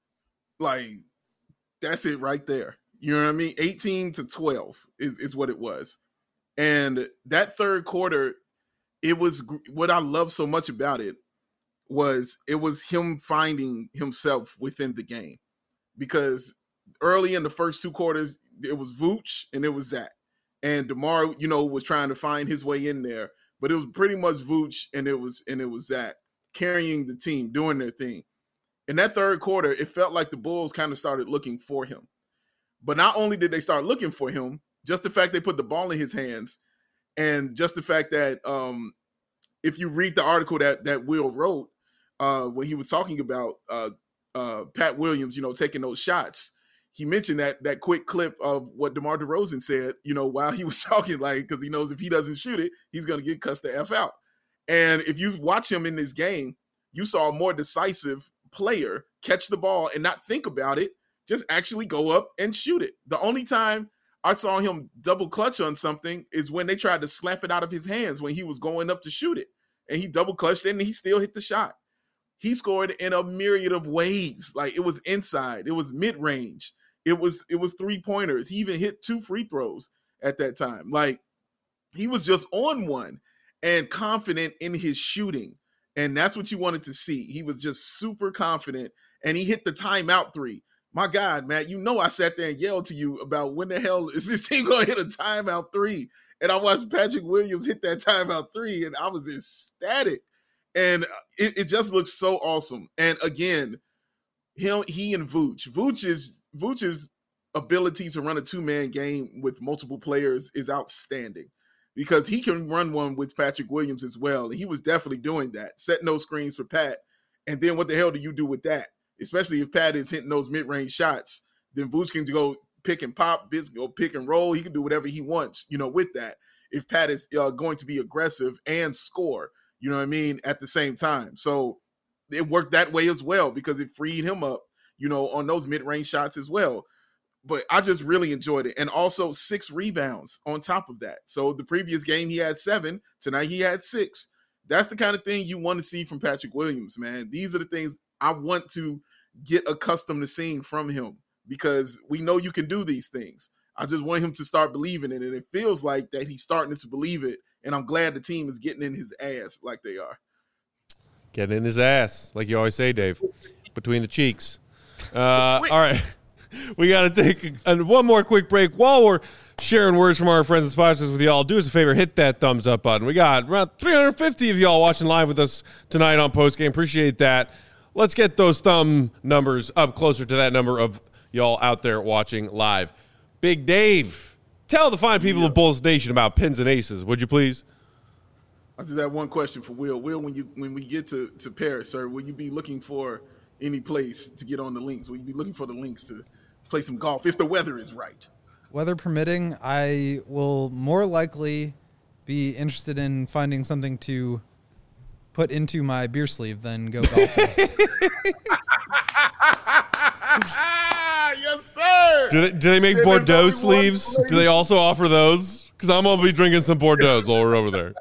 Like, that's it right there. You know what I mean? 18-12 is what it was. And that third quarter, it was what I love so much about it was him finding himself within the game. Because early in the first 2 quarters, it was Vooch and it was Zach. And DeMar, was trying to find his way in there. But it was pretty much Vooch and it was Zach carrying the team, doing their thing. In that third quarter, it felt like the Bulls kind of started looking for him. But not only did they start looking for him, just the fact they put the ball in his hands, and just the fact that if you read the article that Will wrote when he was talking about Pat Williams, taking those shots, he mentioned that quick clip of what DeMar DeRozan said, while he was talking, like, because he knows if he doesn't shoot it, he's going to get cussed the F out. And if you watch him in this game, you saw a more decisive player catch the ball and not think about it, just actually go up and shoot it. The only time I saw him double clutch on something is when they tried to slap it out of his hands when he was going up to shoot it. And he double clutched it and he still hit the shot. He scored in a myriad of ways. Like, it was inside, it was mid-range, it was 3-pointers. He even hit 2 free throws at that time. Like, he was just on one and confident in his shooting. And that's what you wanted to see. He was just super confident, and he hit the timeout 3. My God, Matt, you know I sat there and yelled to you about when the hell is this team going to hit a timeout 3? And I watched Patrick Williams hit that timeout 3, and I was ecstatic. And it just looks so awesome. And again, he and Vooch. Vooch's ability to run a two-man game with multiple players is outstanding because he can run one with Patrick Williams as well. And he was definitely doing that, setting those screens for Pat. And then what the hell do you do with that? Especially if Pat is hitting those mid-range shots, then Vooch can go pick and pop, go pick and roll. He can do whatever he wants, with that. If Pat is going to be aggressive and score, you know what I mean, at the same time. So it worked that way as well because it freed him up, on those mid-range shots as well. But I just really enjoyed it. And also 6 rebounds on top of that. So the previous game he had 7. Tonight he had 6. That's the kind of thing you want to see from Patrick Williams, man. These are the things I want to get accustomed to seeing from him because we know you can do these things. I just want him to start believing it, and it feels like that he's starting to believe it, and I'm glad the team is getting in his ass like they are. Getting in his ass, like you always say, Dave, between the cheeks. All right, we got to take one more quick break. While we're sharing words from our friends and sponsors with y'all, do us a favor, hit that thumbs up button. We got around 350 of y'all watching live with us tonight on Postgame. Appreciate that. Let's get those thumb numbers up closer to that number of y'all out there watching live. Big Dave, tell the fine people of Bulls Nation about Pins and Aces, would you please? I just have one question for Will. Will, when we get to Paris, sir, will you be looking for any place to get on the links? Will you be looking for the links to play some golf if the weather is right? Weather permitting, I will more likely be interested in finding something to put into my beer sleeve than go golfing. Yes, sir. Do they make Bordeaux sleeves? Do they also offer those? Because I'm going to be drinking some Bordeaux while we're over there.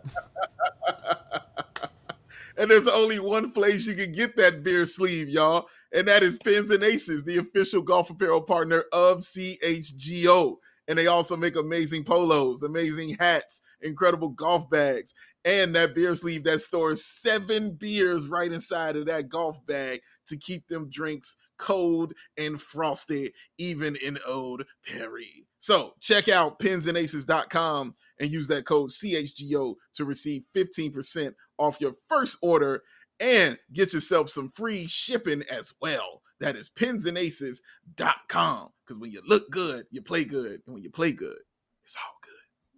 And there's only one place you can get that beer sleeve, y'all, and that is Pins and Aces, the official golf apparel partner of CHGO. And they also make amazing polos, amazing hats, incredible golf bags, and that beer sleeve that stores 7 beers right inside of that golf bag to keep them drinks cold and frosty, even in Old Perry. So check out pinsandaces.com and use that code CHGO to receive 15% off your first order and get yourself some free shipping as well. That is pinsandaces.com. Because when you look good, you play good. And when you play good, it's all good.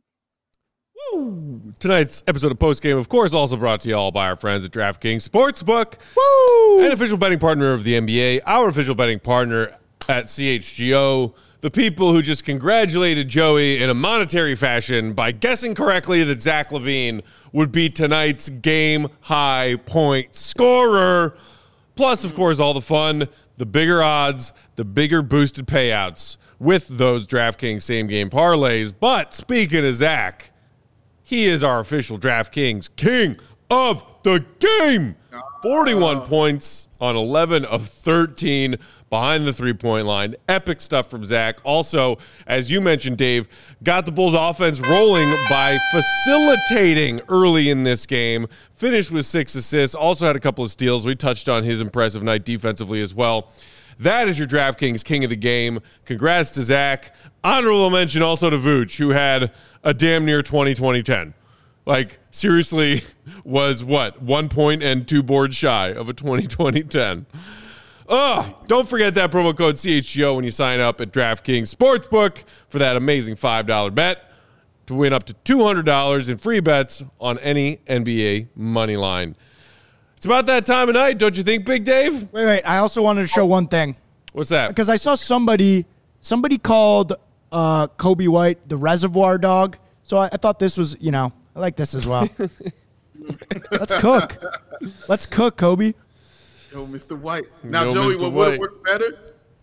Woo! Tonight's episode of Postgame, of course, also brought to you all by our friends at DraftKings Sportsbook. Woo! An official betting partner of the NBA, our official betting partner at CHGO. The people who just congratulated Joey in a monetary fashion by guessing correctly that Zach LaVine would be tonight's game-high point scorer. Plus, of course, all the fun, the bigger odds, the bigger boosted payouts with those DraftKings same-game parlays. But speaking of Zach, he is our official DraftKings king of the game. 41 points on 11 of 13 behind the three-point line. Epic stuff from Zach. Also, as you mentioned, Dave, got the Bulls offense rolling by facilitating early in this game. Finished with 6 assists. Also had a couple of steals. We touched on his impressive night defensively as well. That is your DraftKings king of the game. Congrats to Zach. Honorable mention also to Vooch, who had a damn near 20-20-10. Like, seriously, was what? 1 point and 2 boards shy of a 20-20-10. Oh, don't forget that promo code CHGO when you sign up at DraftKings Sportsbook for that amazing $5 bet to win up to $200 in free bets on any NBA money line. It's about that time of night, don't you think, Big Dave? Wait. I also wanted to show one thing. What's that? Because I saw somebody called Kobe White the Reservoir Dog. So I thought this was, I like this as well. Let's cook. Let's cook, Kobe. Yo, Mr. White. Now, Joey, what would have worked better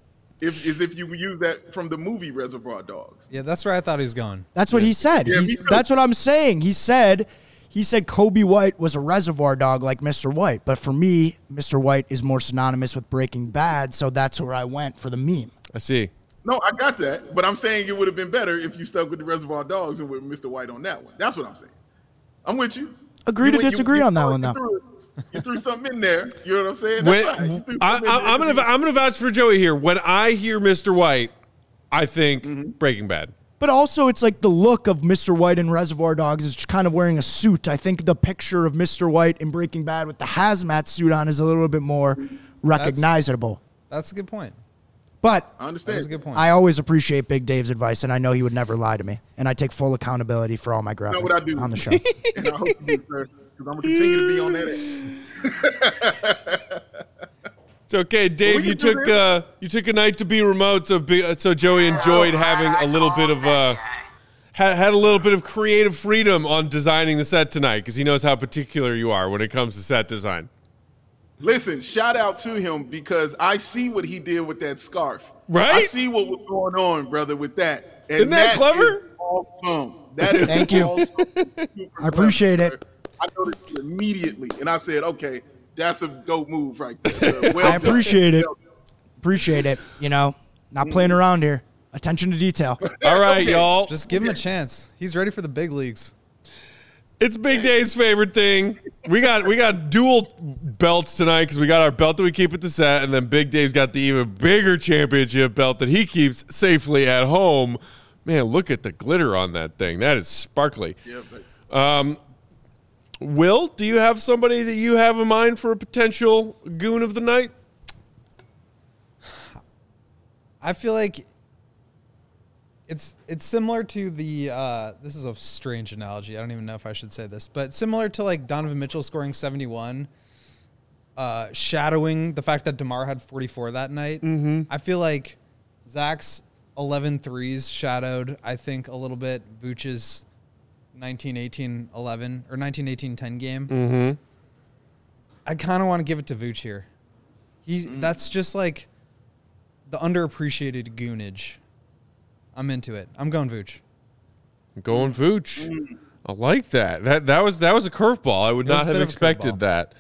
if you use that from the movie Reservoir Dogs. Yeah, that's where I thought he was going. That's what he said. Yeah, that's what I'm saying. He said Kobe White was a reservoir dog like Mr. White. But for me, Mr. White is more synonymous with Breaking Bad, so that's where I went for the meme. I see. No, I got that. But I'm saying it would have been better if you stuck with the Reservoir Dogs and with Mr. White on that one. That's what I'm saying. I'm with you. Agree to disagree on that one, though. You threw something in there. You know what I'm saying? I'm gonna vouch for Joey here. When I hear Mr. White, I think Breaking Bad. But also, it's like the look of Mr. White in Reservoir Dogs is kind of wearing a suit. I think the picture of Mr. White in Breaking Bad with the hazmat suit on is a little bit more recognizable. That's a good point. But I understand. That's a good point. I always appreciate Big Dave's advice, and I know he would never lie to me. And I take full accountability for all my graphics on the show. And I hope you do, sir, because I'm going to continue to be on that end. It's okay, Dave. You took a night to be remote, so Joey enjoyed having a little bit of had a little bit of creative freedom on designing the set tonight because he knows how particular you are when it comes to set design. Listen, shout out to him because I see what he did with that scarf. Right? I see what was going on, brother, with that. And Isn't that clever? Is awesome. That is Thank you. awesome. I appreciate it. I noticed it immediately, and I said, okay, that's a dope move right there. Well I appreciate done. it. Appreciate it. You know, not playing around here. Attention to detail. All right, y'all. Just give him a chance. He's ready for the big leagues. It's Big Dave's favorite thing. We got dual belts tonight because we got our belt that we keep at the set, and then Big Dave's got the even bigger championship belt that he keeps safely at home. Man, look at the glitter on that thing. That is sparkly. Yeah, Will, do you have somebody that you have in mind for a potential goon of the night? I feel like it's similar to the this is a strange analogy. I don't even know if I should say this, but similar to like Donovan Mitchell scoring 71, shadowing the fact that DeMar had 44 that night. I feel like Zach's 11 threes shadowed, I think, a little bit Vooch's 19-18-11 or 19-18-10 game. I kind of want to give it to Vooch here. That's just like the underappreciated goonage. I'm into it. I'm going Vooch. I'm going Vooch. I like that. That was a curveball. I would not have expected that.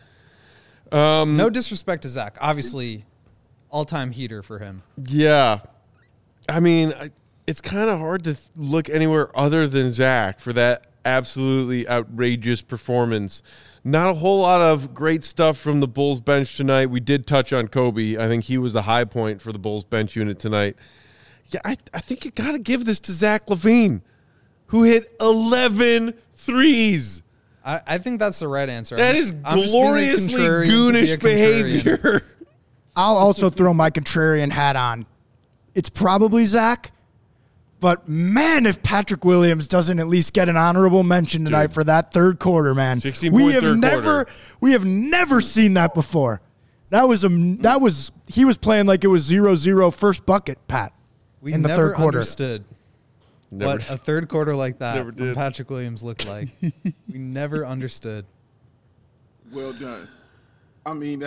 No disrespect to Zach. Obviously, all-time heater for him. Yeah. I mean, it's kind of hard to look anywhere other than Zach for that absolutely outrageous performance. Not a whole lot of great stuff from the Bulls bench tonight. We did touch on Kobe. I think he was the high point for the Bulls bench unit tonight. Yeah, I think you got to give this to Zach LaVine, who hit 11 threes. I think that's the right answer. That is gloriously goonish behavior. I'll also throw my contrarian hat on. It's probably Zach, but man, if Patrick Williams doesn't at least get an honorable mention tonight for that third quarter, man, 16-point third quarter. We have never seen that before. He was playing like it was 0-0 first bucket, Pat. We in the never third quarter. Understood what a third quarter like that from Patrick Williams looked like. We never understood. Well done. I mean,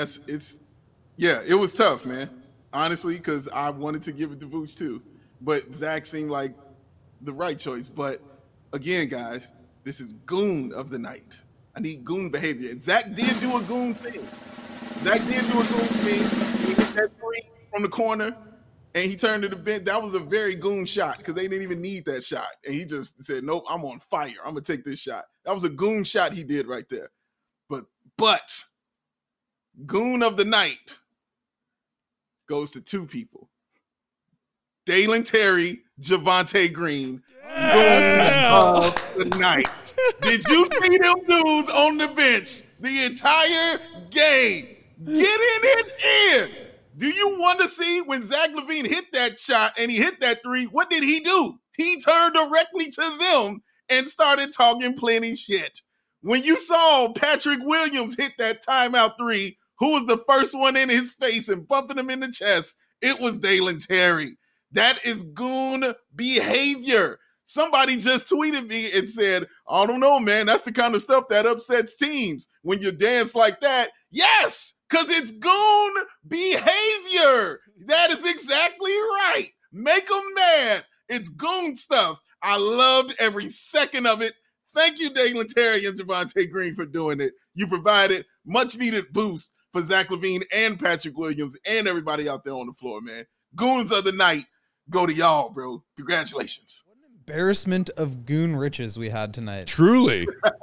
it was tough, man. Honestly, because I wanted to give it to Vooch too. But Zach seemed like the right choice. But again, guys, this is goon of the night. I need goon behavior. And Zach did do a goon thing. He hit that three from the corner, and he turned to the bench. That was a very goon shot because they didn't even need that shot. And he just said, nope, I'm on fire. I'm going to take this shot. That was a goon shot he did right there. But goon of the night goes to two people. Dalen Terry, Javonte Green. Goon of the night. Did you see them dudes on the bench the entire game? Getting it in. Do you want to see when Zach LaVine hit that shot and he hit that three, what did he do? He turned directly to them and started talking plenty shit. When you saw Patrick Williams hit that timeout three, who was the first one in his face and bumping him in the chest? It was Dalen Terry. That is goon behavior. Somebody just tweeted me and said, I don't know, man. That's the kind of stuff that upsets teams when you dance like that. Yes, because it's goon behavior. That is exactly right. Make them mad. It's goon stuff. I loved every second of it. Thank you, Dalen Terry and Javonte Green, for doing it. You provided much-needed boost for Zach LaVine and Patrick Williams and everybody out there on the floor, man. Goons of the night go to y'all, bro. Congratulations. What an embarrassment of goon riches we had tonight. Truly.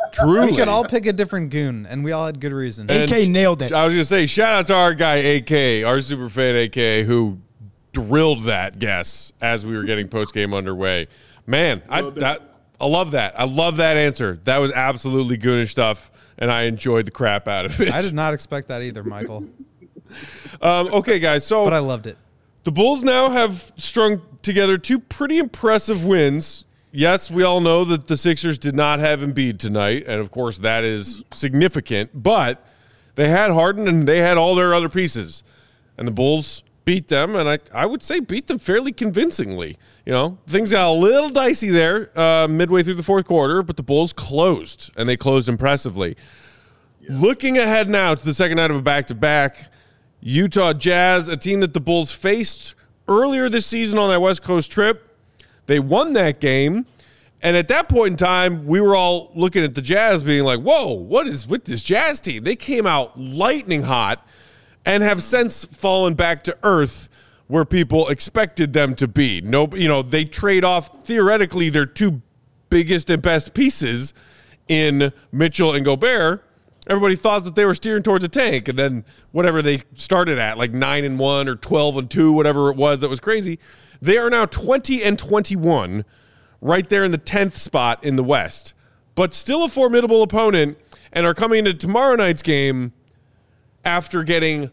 Truly. We could all pick a different goon, and we all had good reason. AK nailed it. I was going to say, shout out to our guy, AK, our super fan, AK, who drilled that guess as we were getting post-game underway. Man, I love that. I love that answer. That was absolutely goonish stuff, and I enjoyed the crap out of it. I did not expect that either, Michael. Okay, guys, but I loved it. The Bulls now have strung together 2 pretty impressive wins. Yes, we all know that the Sixers did not have Embiid tonight, and of course that is significant, but they had Harden and they had all their other pieces, and the Bulls beat them, and I would say beat them fairly convincingly. You know, things got a little dicey there midway through the fourth quarter, but the Bulls closed, and they closed impressively. Yeah. Looking ahead now to the second night of a back-to-back, Utah Jazz, a team that the Bulls faced earlier this season on that West Coast trip. They won that game, and at that point in time, we were all looking at the Jazz being like, whoa, what is with this Jazz team? They came out lightning hot and have since fallen back to earth where people expected them to be. No, they trade off, theoretically, their 2 biggest and best pieces in Mitchell and Gobert. Everybody thought that they were steering towards a tank, and then whatever they started at, like 9-1 or 12-2, whatever it was that was crazy, they are now 20-21, right there in the 10th spot in the West, but still a formidable opponent, and are coming into tomorrow night's game after getting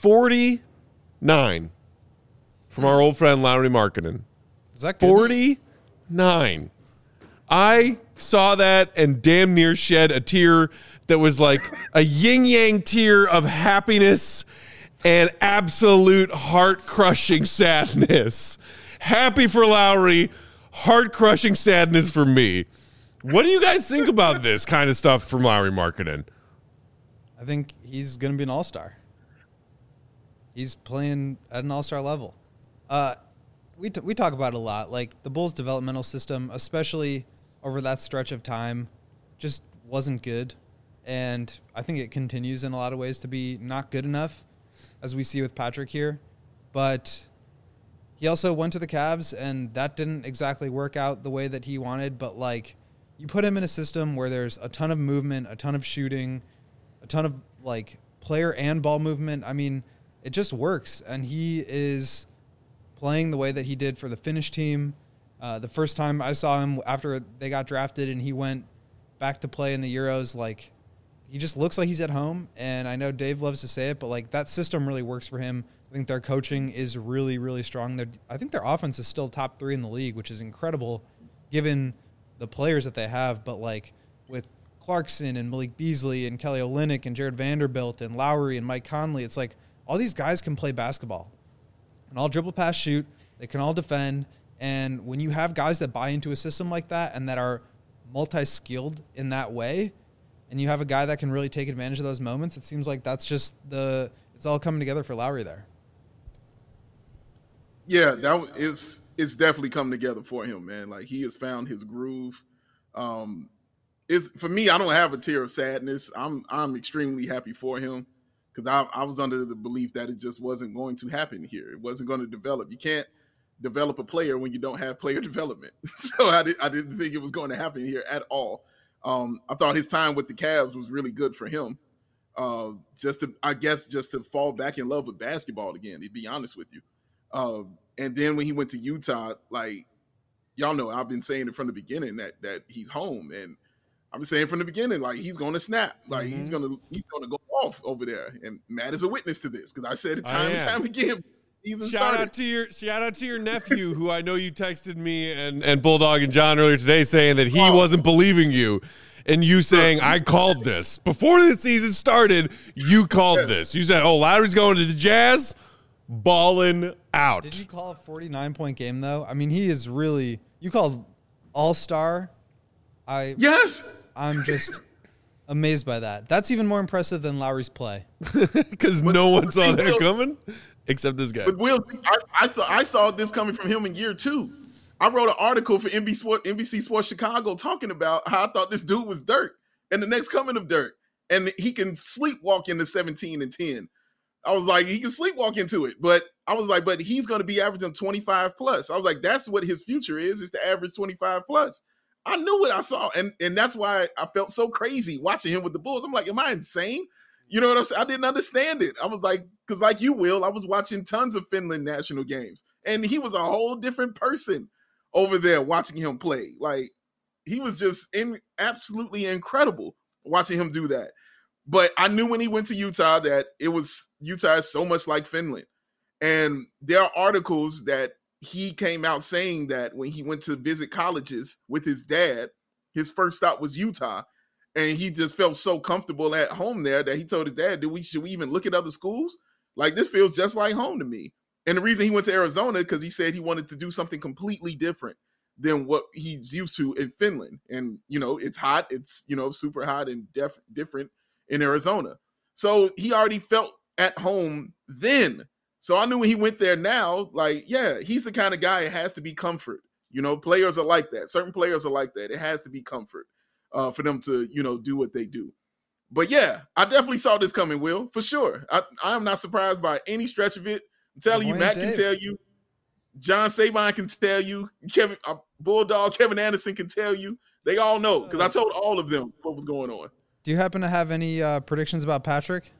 49 from our old friend Lauri Markkanen. Is that good? 49. I saw that and damn near shed a tear that was like a yin-yang tear of happiness and absolute heart-crushing sadness. Happy for Lauri, heart-crushing sadness for me. What do you guys think about this kind of stuff from Lauri Markkanen? I think he's going to be an all-star. He's playing at an all-star level. We talk about it a lot. Like, the Bulls' developmental system, especially over that stretch of time, just wasn't good. And I think it continues in a lot of ways to be not good enough, as we see with Patrick here. But he also went to the Cavs, and that didn't exactly work out the way that he wanted. But, like, you put him in a system where there's a ton of movement, a ton of shooting, a ton of, like, player and ball movement. I mean, it just works. And he is playing the way that he did for the Finnish team. The first time I saw him after they got drafted and he went back to play in the Euros, like, he just looks like he's at home. And I know Dave loves to say it, but, like, that system really works for him. I think their coaching is really, really strong. I think their offense is still top 3 in the league, which is incredible given the players that they have. But, like, with Clarkson and Malik Beasley and Kelly Olynyk and Jared Vanderbilt and Lowry and Mike Conley, it's like all these guys can play basketball and all dribble, pass, shoot. They can all defend. And when you have guys that buy into a system like that and that are multi-skilled in that way, and you have a guy that can really take advantage of those moments, it seems like that's just it's all coming together for Lowry there. Yeah, it's definitely come together for him, man. Like, he has found his groove. It's for me, I don't have a tear of sadness. I'm extremely happy for him because I was under the belief that it just wasn't going to happen here. It wasn't going to develop. You can't develop a player when you don't have player development. So I didn't think it was going to happen here at all. I thought his time with the Cavs was really good for him. Just to fall back in love with basketball again, to be honest with you. And then when he went to Utah, like, y'all know, I've been saying it from the beginning that he's home, and I've been saying from the beginning, like, he's going to snap, like he's going to go off over there. And Matt is a witness to this because I said it time and time again. Shout out to your nephew, who I know you texted me and Bulldog and John earlier today saying that he wasn't believing you, and you saying, I called this before the season started. You called this. You said, Lowry's going to the Jazz, balling out. Did you call a 49-point game though? I mean, he is really. You called all-star. Yes. I'm just amazed by that. That's even more impressive than Lowry's play. Because no one saw that coming. Except this guy. But Will, I saw this coming from him in year 2. I wrote an article for NBC Sports Chicago talking about how I thought this dude was Dirk and the next coming of Dirk. And he can sleepwalk into 17-10. I was like, he can sleepwalk into it. But I was like, but he's going to be averaging 25 plus. I was like, that's what his future is to average 25 plus. I knew what I saw. And that's why I felt so crazy watching him with the Bulls. I'm like, am I insane? You know what I'm saying? I didn't understand it. I was like, because like you, Will, I was watching tons of Finland national games. And he was a whole different person over there watching him play. Like, he was just absolutely incredible watching him do that. But I knew when he went to Utah that Utah is so much like Finland. And there are articles that he came out saying that when he went to visit colleges with his dad, his first stop was Utah. And he just felt so comfortable at home there that he told his dad, should we even look at other schools? Like, this feels just like home to me. And the reason he went to Arizona, because he said he wanted to do something completely different than what he's used to in Finland. And, it's hot. It's, super hot and different in Arizona. So he already felt at home then. So I knew when he went there now, like, yeah, he's the kind of guy it has to be comfort. Players are like that. Certain players are like that. It has to be comfort for them to, do what they do. But yeah, I definitely saw this coming, Will, for sure. I am not surprised by any stretch of it. I'm telling you, Matt can tell you, John Sabine can tell you, Bulldog Kevin Anderson can tell you. They all know because I told all of them what was going on. Do you happen to have any predictions about Patrick?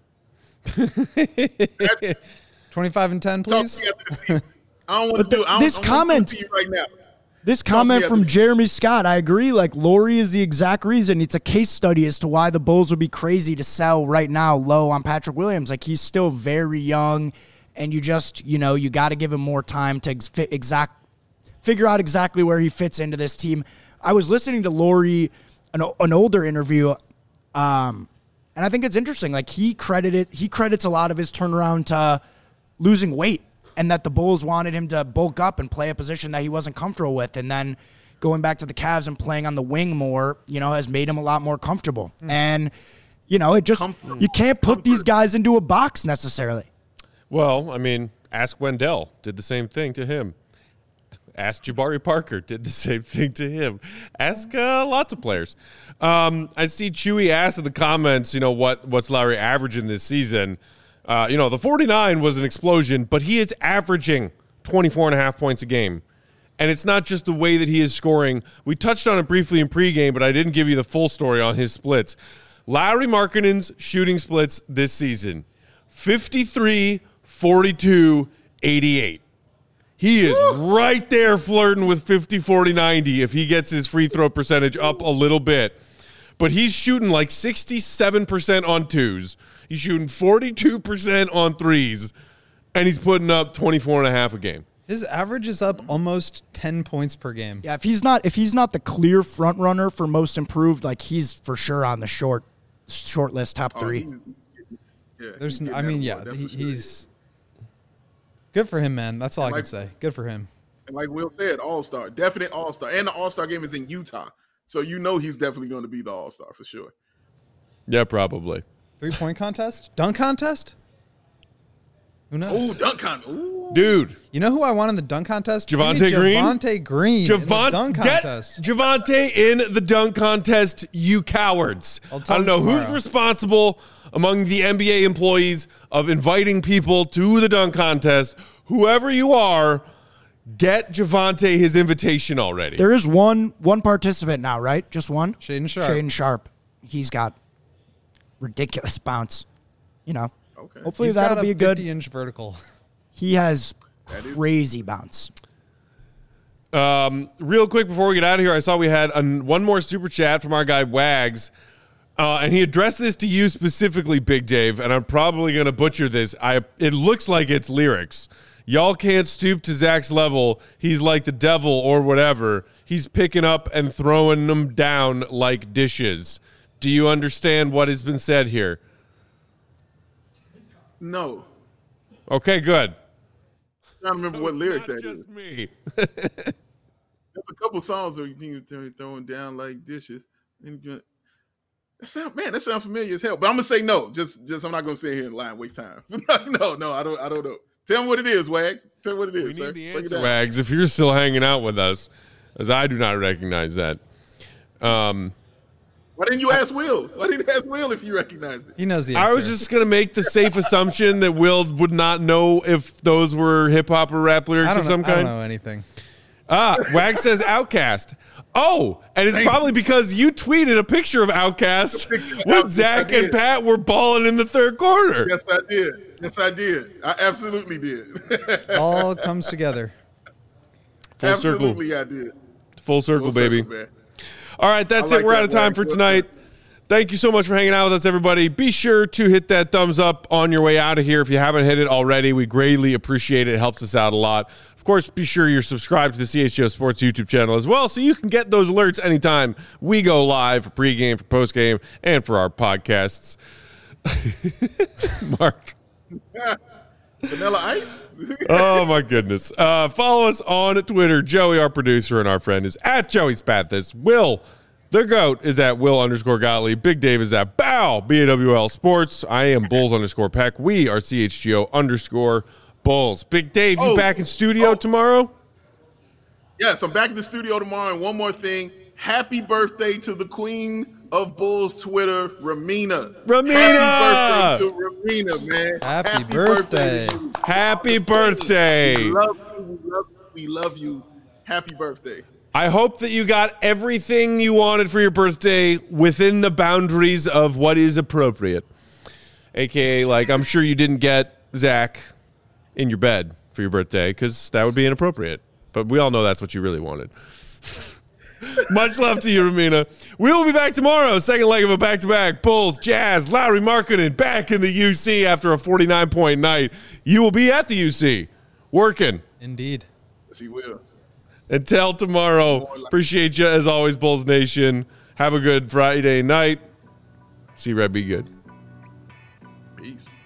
25-10, please. I don't want to do this comment to you right now. This comment from Jeremy Scott, I agree. Like, Lauri is the exact reason. It's a case study as to why the Bulls would be crazy to sell right now low on Patrick Williams. Like, he's still very young, and you just, you got to give him more time to figure out exactly where he fits into this team. I was listening to Lauri, an older interview, and I think it's interesting. Like, he credits a lot of his turnaround to losing weight, and that the Bulls wanted him to bulk up and play a position that he wasn't comfortable with. And then going back to the Cavs and playing on the wing more, has made him a lot more comfortable. And, it just, you can't put these guys into a box necessarily. Well, I mean, ask Wendell. Did the same thing to him. Ask Jabari Parker. Did the same thing to him. Ask lots of players. I see Chewy asked in the comments, what's Lauri averaging this season? The 49 was an explosion, but he is averaging 24.5 points a game. And it's not just the way that he is scoring. We touched on it briefly in pregame, but I didn't give you the full story on his splits. Lauri Markkanen's shooting splits this season, 53, 42, 88. He is right there flirting with 50, 40, 90 if he gets his free throw percentage up a little bit. But he's shooting like 67% on twos. He's shooting 42% on threes, and he's putting up 24.5 a game. His average is up almost 10 points per game. Yeah, if he's not the clear front runner for most improved, like, he's for sure on the short list, top three. He's good for him, man. That's all I can say. Good for him. And like Will said, all-star, definite all-star, and the all-star game is in Utah, so he's definitely going to be the all-star for sure. Yeah, probably. 3-point contest? Dunk contest? Who knows? Oh, dunk contest. Dude. You know who I want in the dunk contest? Javonte Green? Javonte Green in the dunk contest. Get Javonte in the dunk contest, you cowards. I don't know who's responsible among the NBA employees of inviting people to the dunk contest. Whoever you are, get Javonte his invitation already. There is one participant now, right? Just one? Shaedon Sharpe. He's got ridiculous bounce. Okay. Hopefully that'll be a good 50-inch vertical. He has crazy bounce. Real quick before we get out of here, I saw we had one more super chat from our guy Wags, and he addressed this to you specifically, Big Dave, and I'm probably going to butcher this. It looks like it's lyrics. Y'all can't stoop to Zach's level. He's like the devil or whatever. He's picking up and throwing them down like dishes. Do you understand what has been said here? No. Okay, good. I'm trying to remember what lyric that is. Just me. There's a couple songs where you can throwing down like dishes. That sounds familiar as hell. But I'm gonna say no. Just I'm not gonna sit here and lie and waste time. No, I don't know. Tell me what it is, Wags. Tell me what it is, We sir. need the answer, Wags, if you're still hanging out with us, as I do not recognize that. Why didn't you ask Will? Why didn't you ask Will if you recognized it? He knows the answer. I was just going to make the safe assumption that Will would not know if those were hip-hop or rap lyrics of some kind. I don't know anything. Wag says Outcast. Oh, and it's probably because you tweeted a picture of Outcast when Zach and Pat were balling in the third quarter. Yes, I did. I absolutely did. All comes together. Full Absolutely, circle. I did. Full circle, baby. Man. All right, that's it. We're out of time for tonight. Thank you so much for hanging out with us, everybody. Be sure to hit that thumbs up on your way out of here if you haven't hit it already. We greatly appreciate it. It helps us out a lot. Of course, be sure you're subscribed to the CHGO Sports YouTube channel as well so you can get those alerts anytime we go live for pregame, for postgame, and for our podcasts. Mark. Vanilla Ice? Oh, my goodness. Follow us on Twitter. Joey, our producer, and our friend is at Joey Spathis. Will, the GOAT, is at Will_Gottlieb. Big Dave is at Bow, BAWL Sports. I am Bulls_Peck. We are CHGO_Bulls. Big Dave, you back in studio tomorrow? Yes, I'm back in the studio tomorrow. And one more thing. Happy birthday to the queen of Bulls Twitter, Ramina. Happy birthday to Ramina, man. Happy birthday. Happy birthday. We love you. Happy birthday. I hope that you got everything you wanted for your birthday within the boundaries of what is appropriate. AKA, like, I'm sure you didn't get Zach in your bed for your birthday because that would be inappropriate. But we all know that's what you really wanted. Much love to you, Ramina. We will be back tomorrow. Second leg of a back-to-back. Bulls, Jazz, Lowry Markkanen back in the UC after a 49-point night. You will be at the UC working. Indeed. Yes, he will. Until tomorrow, appreciate you as always, Bulls Nation. Have a good Friday night. See Red be good. Peace.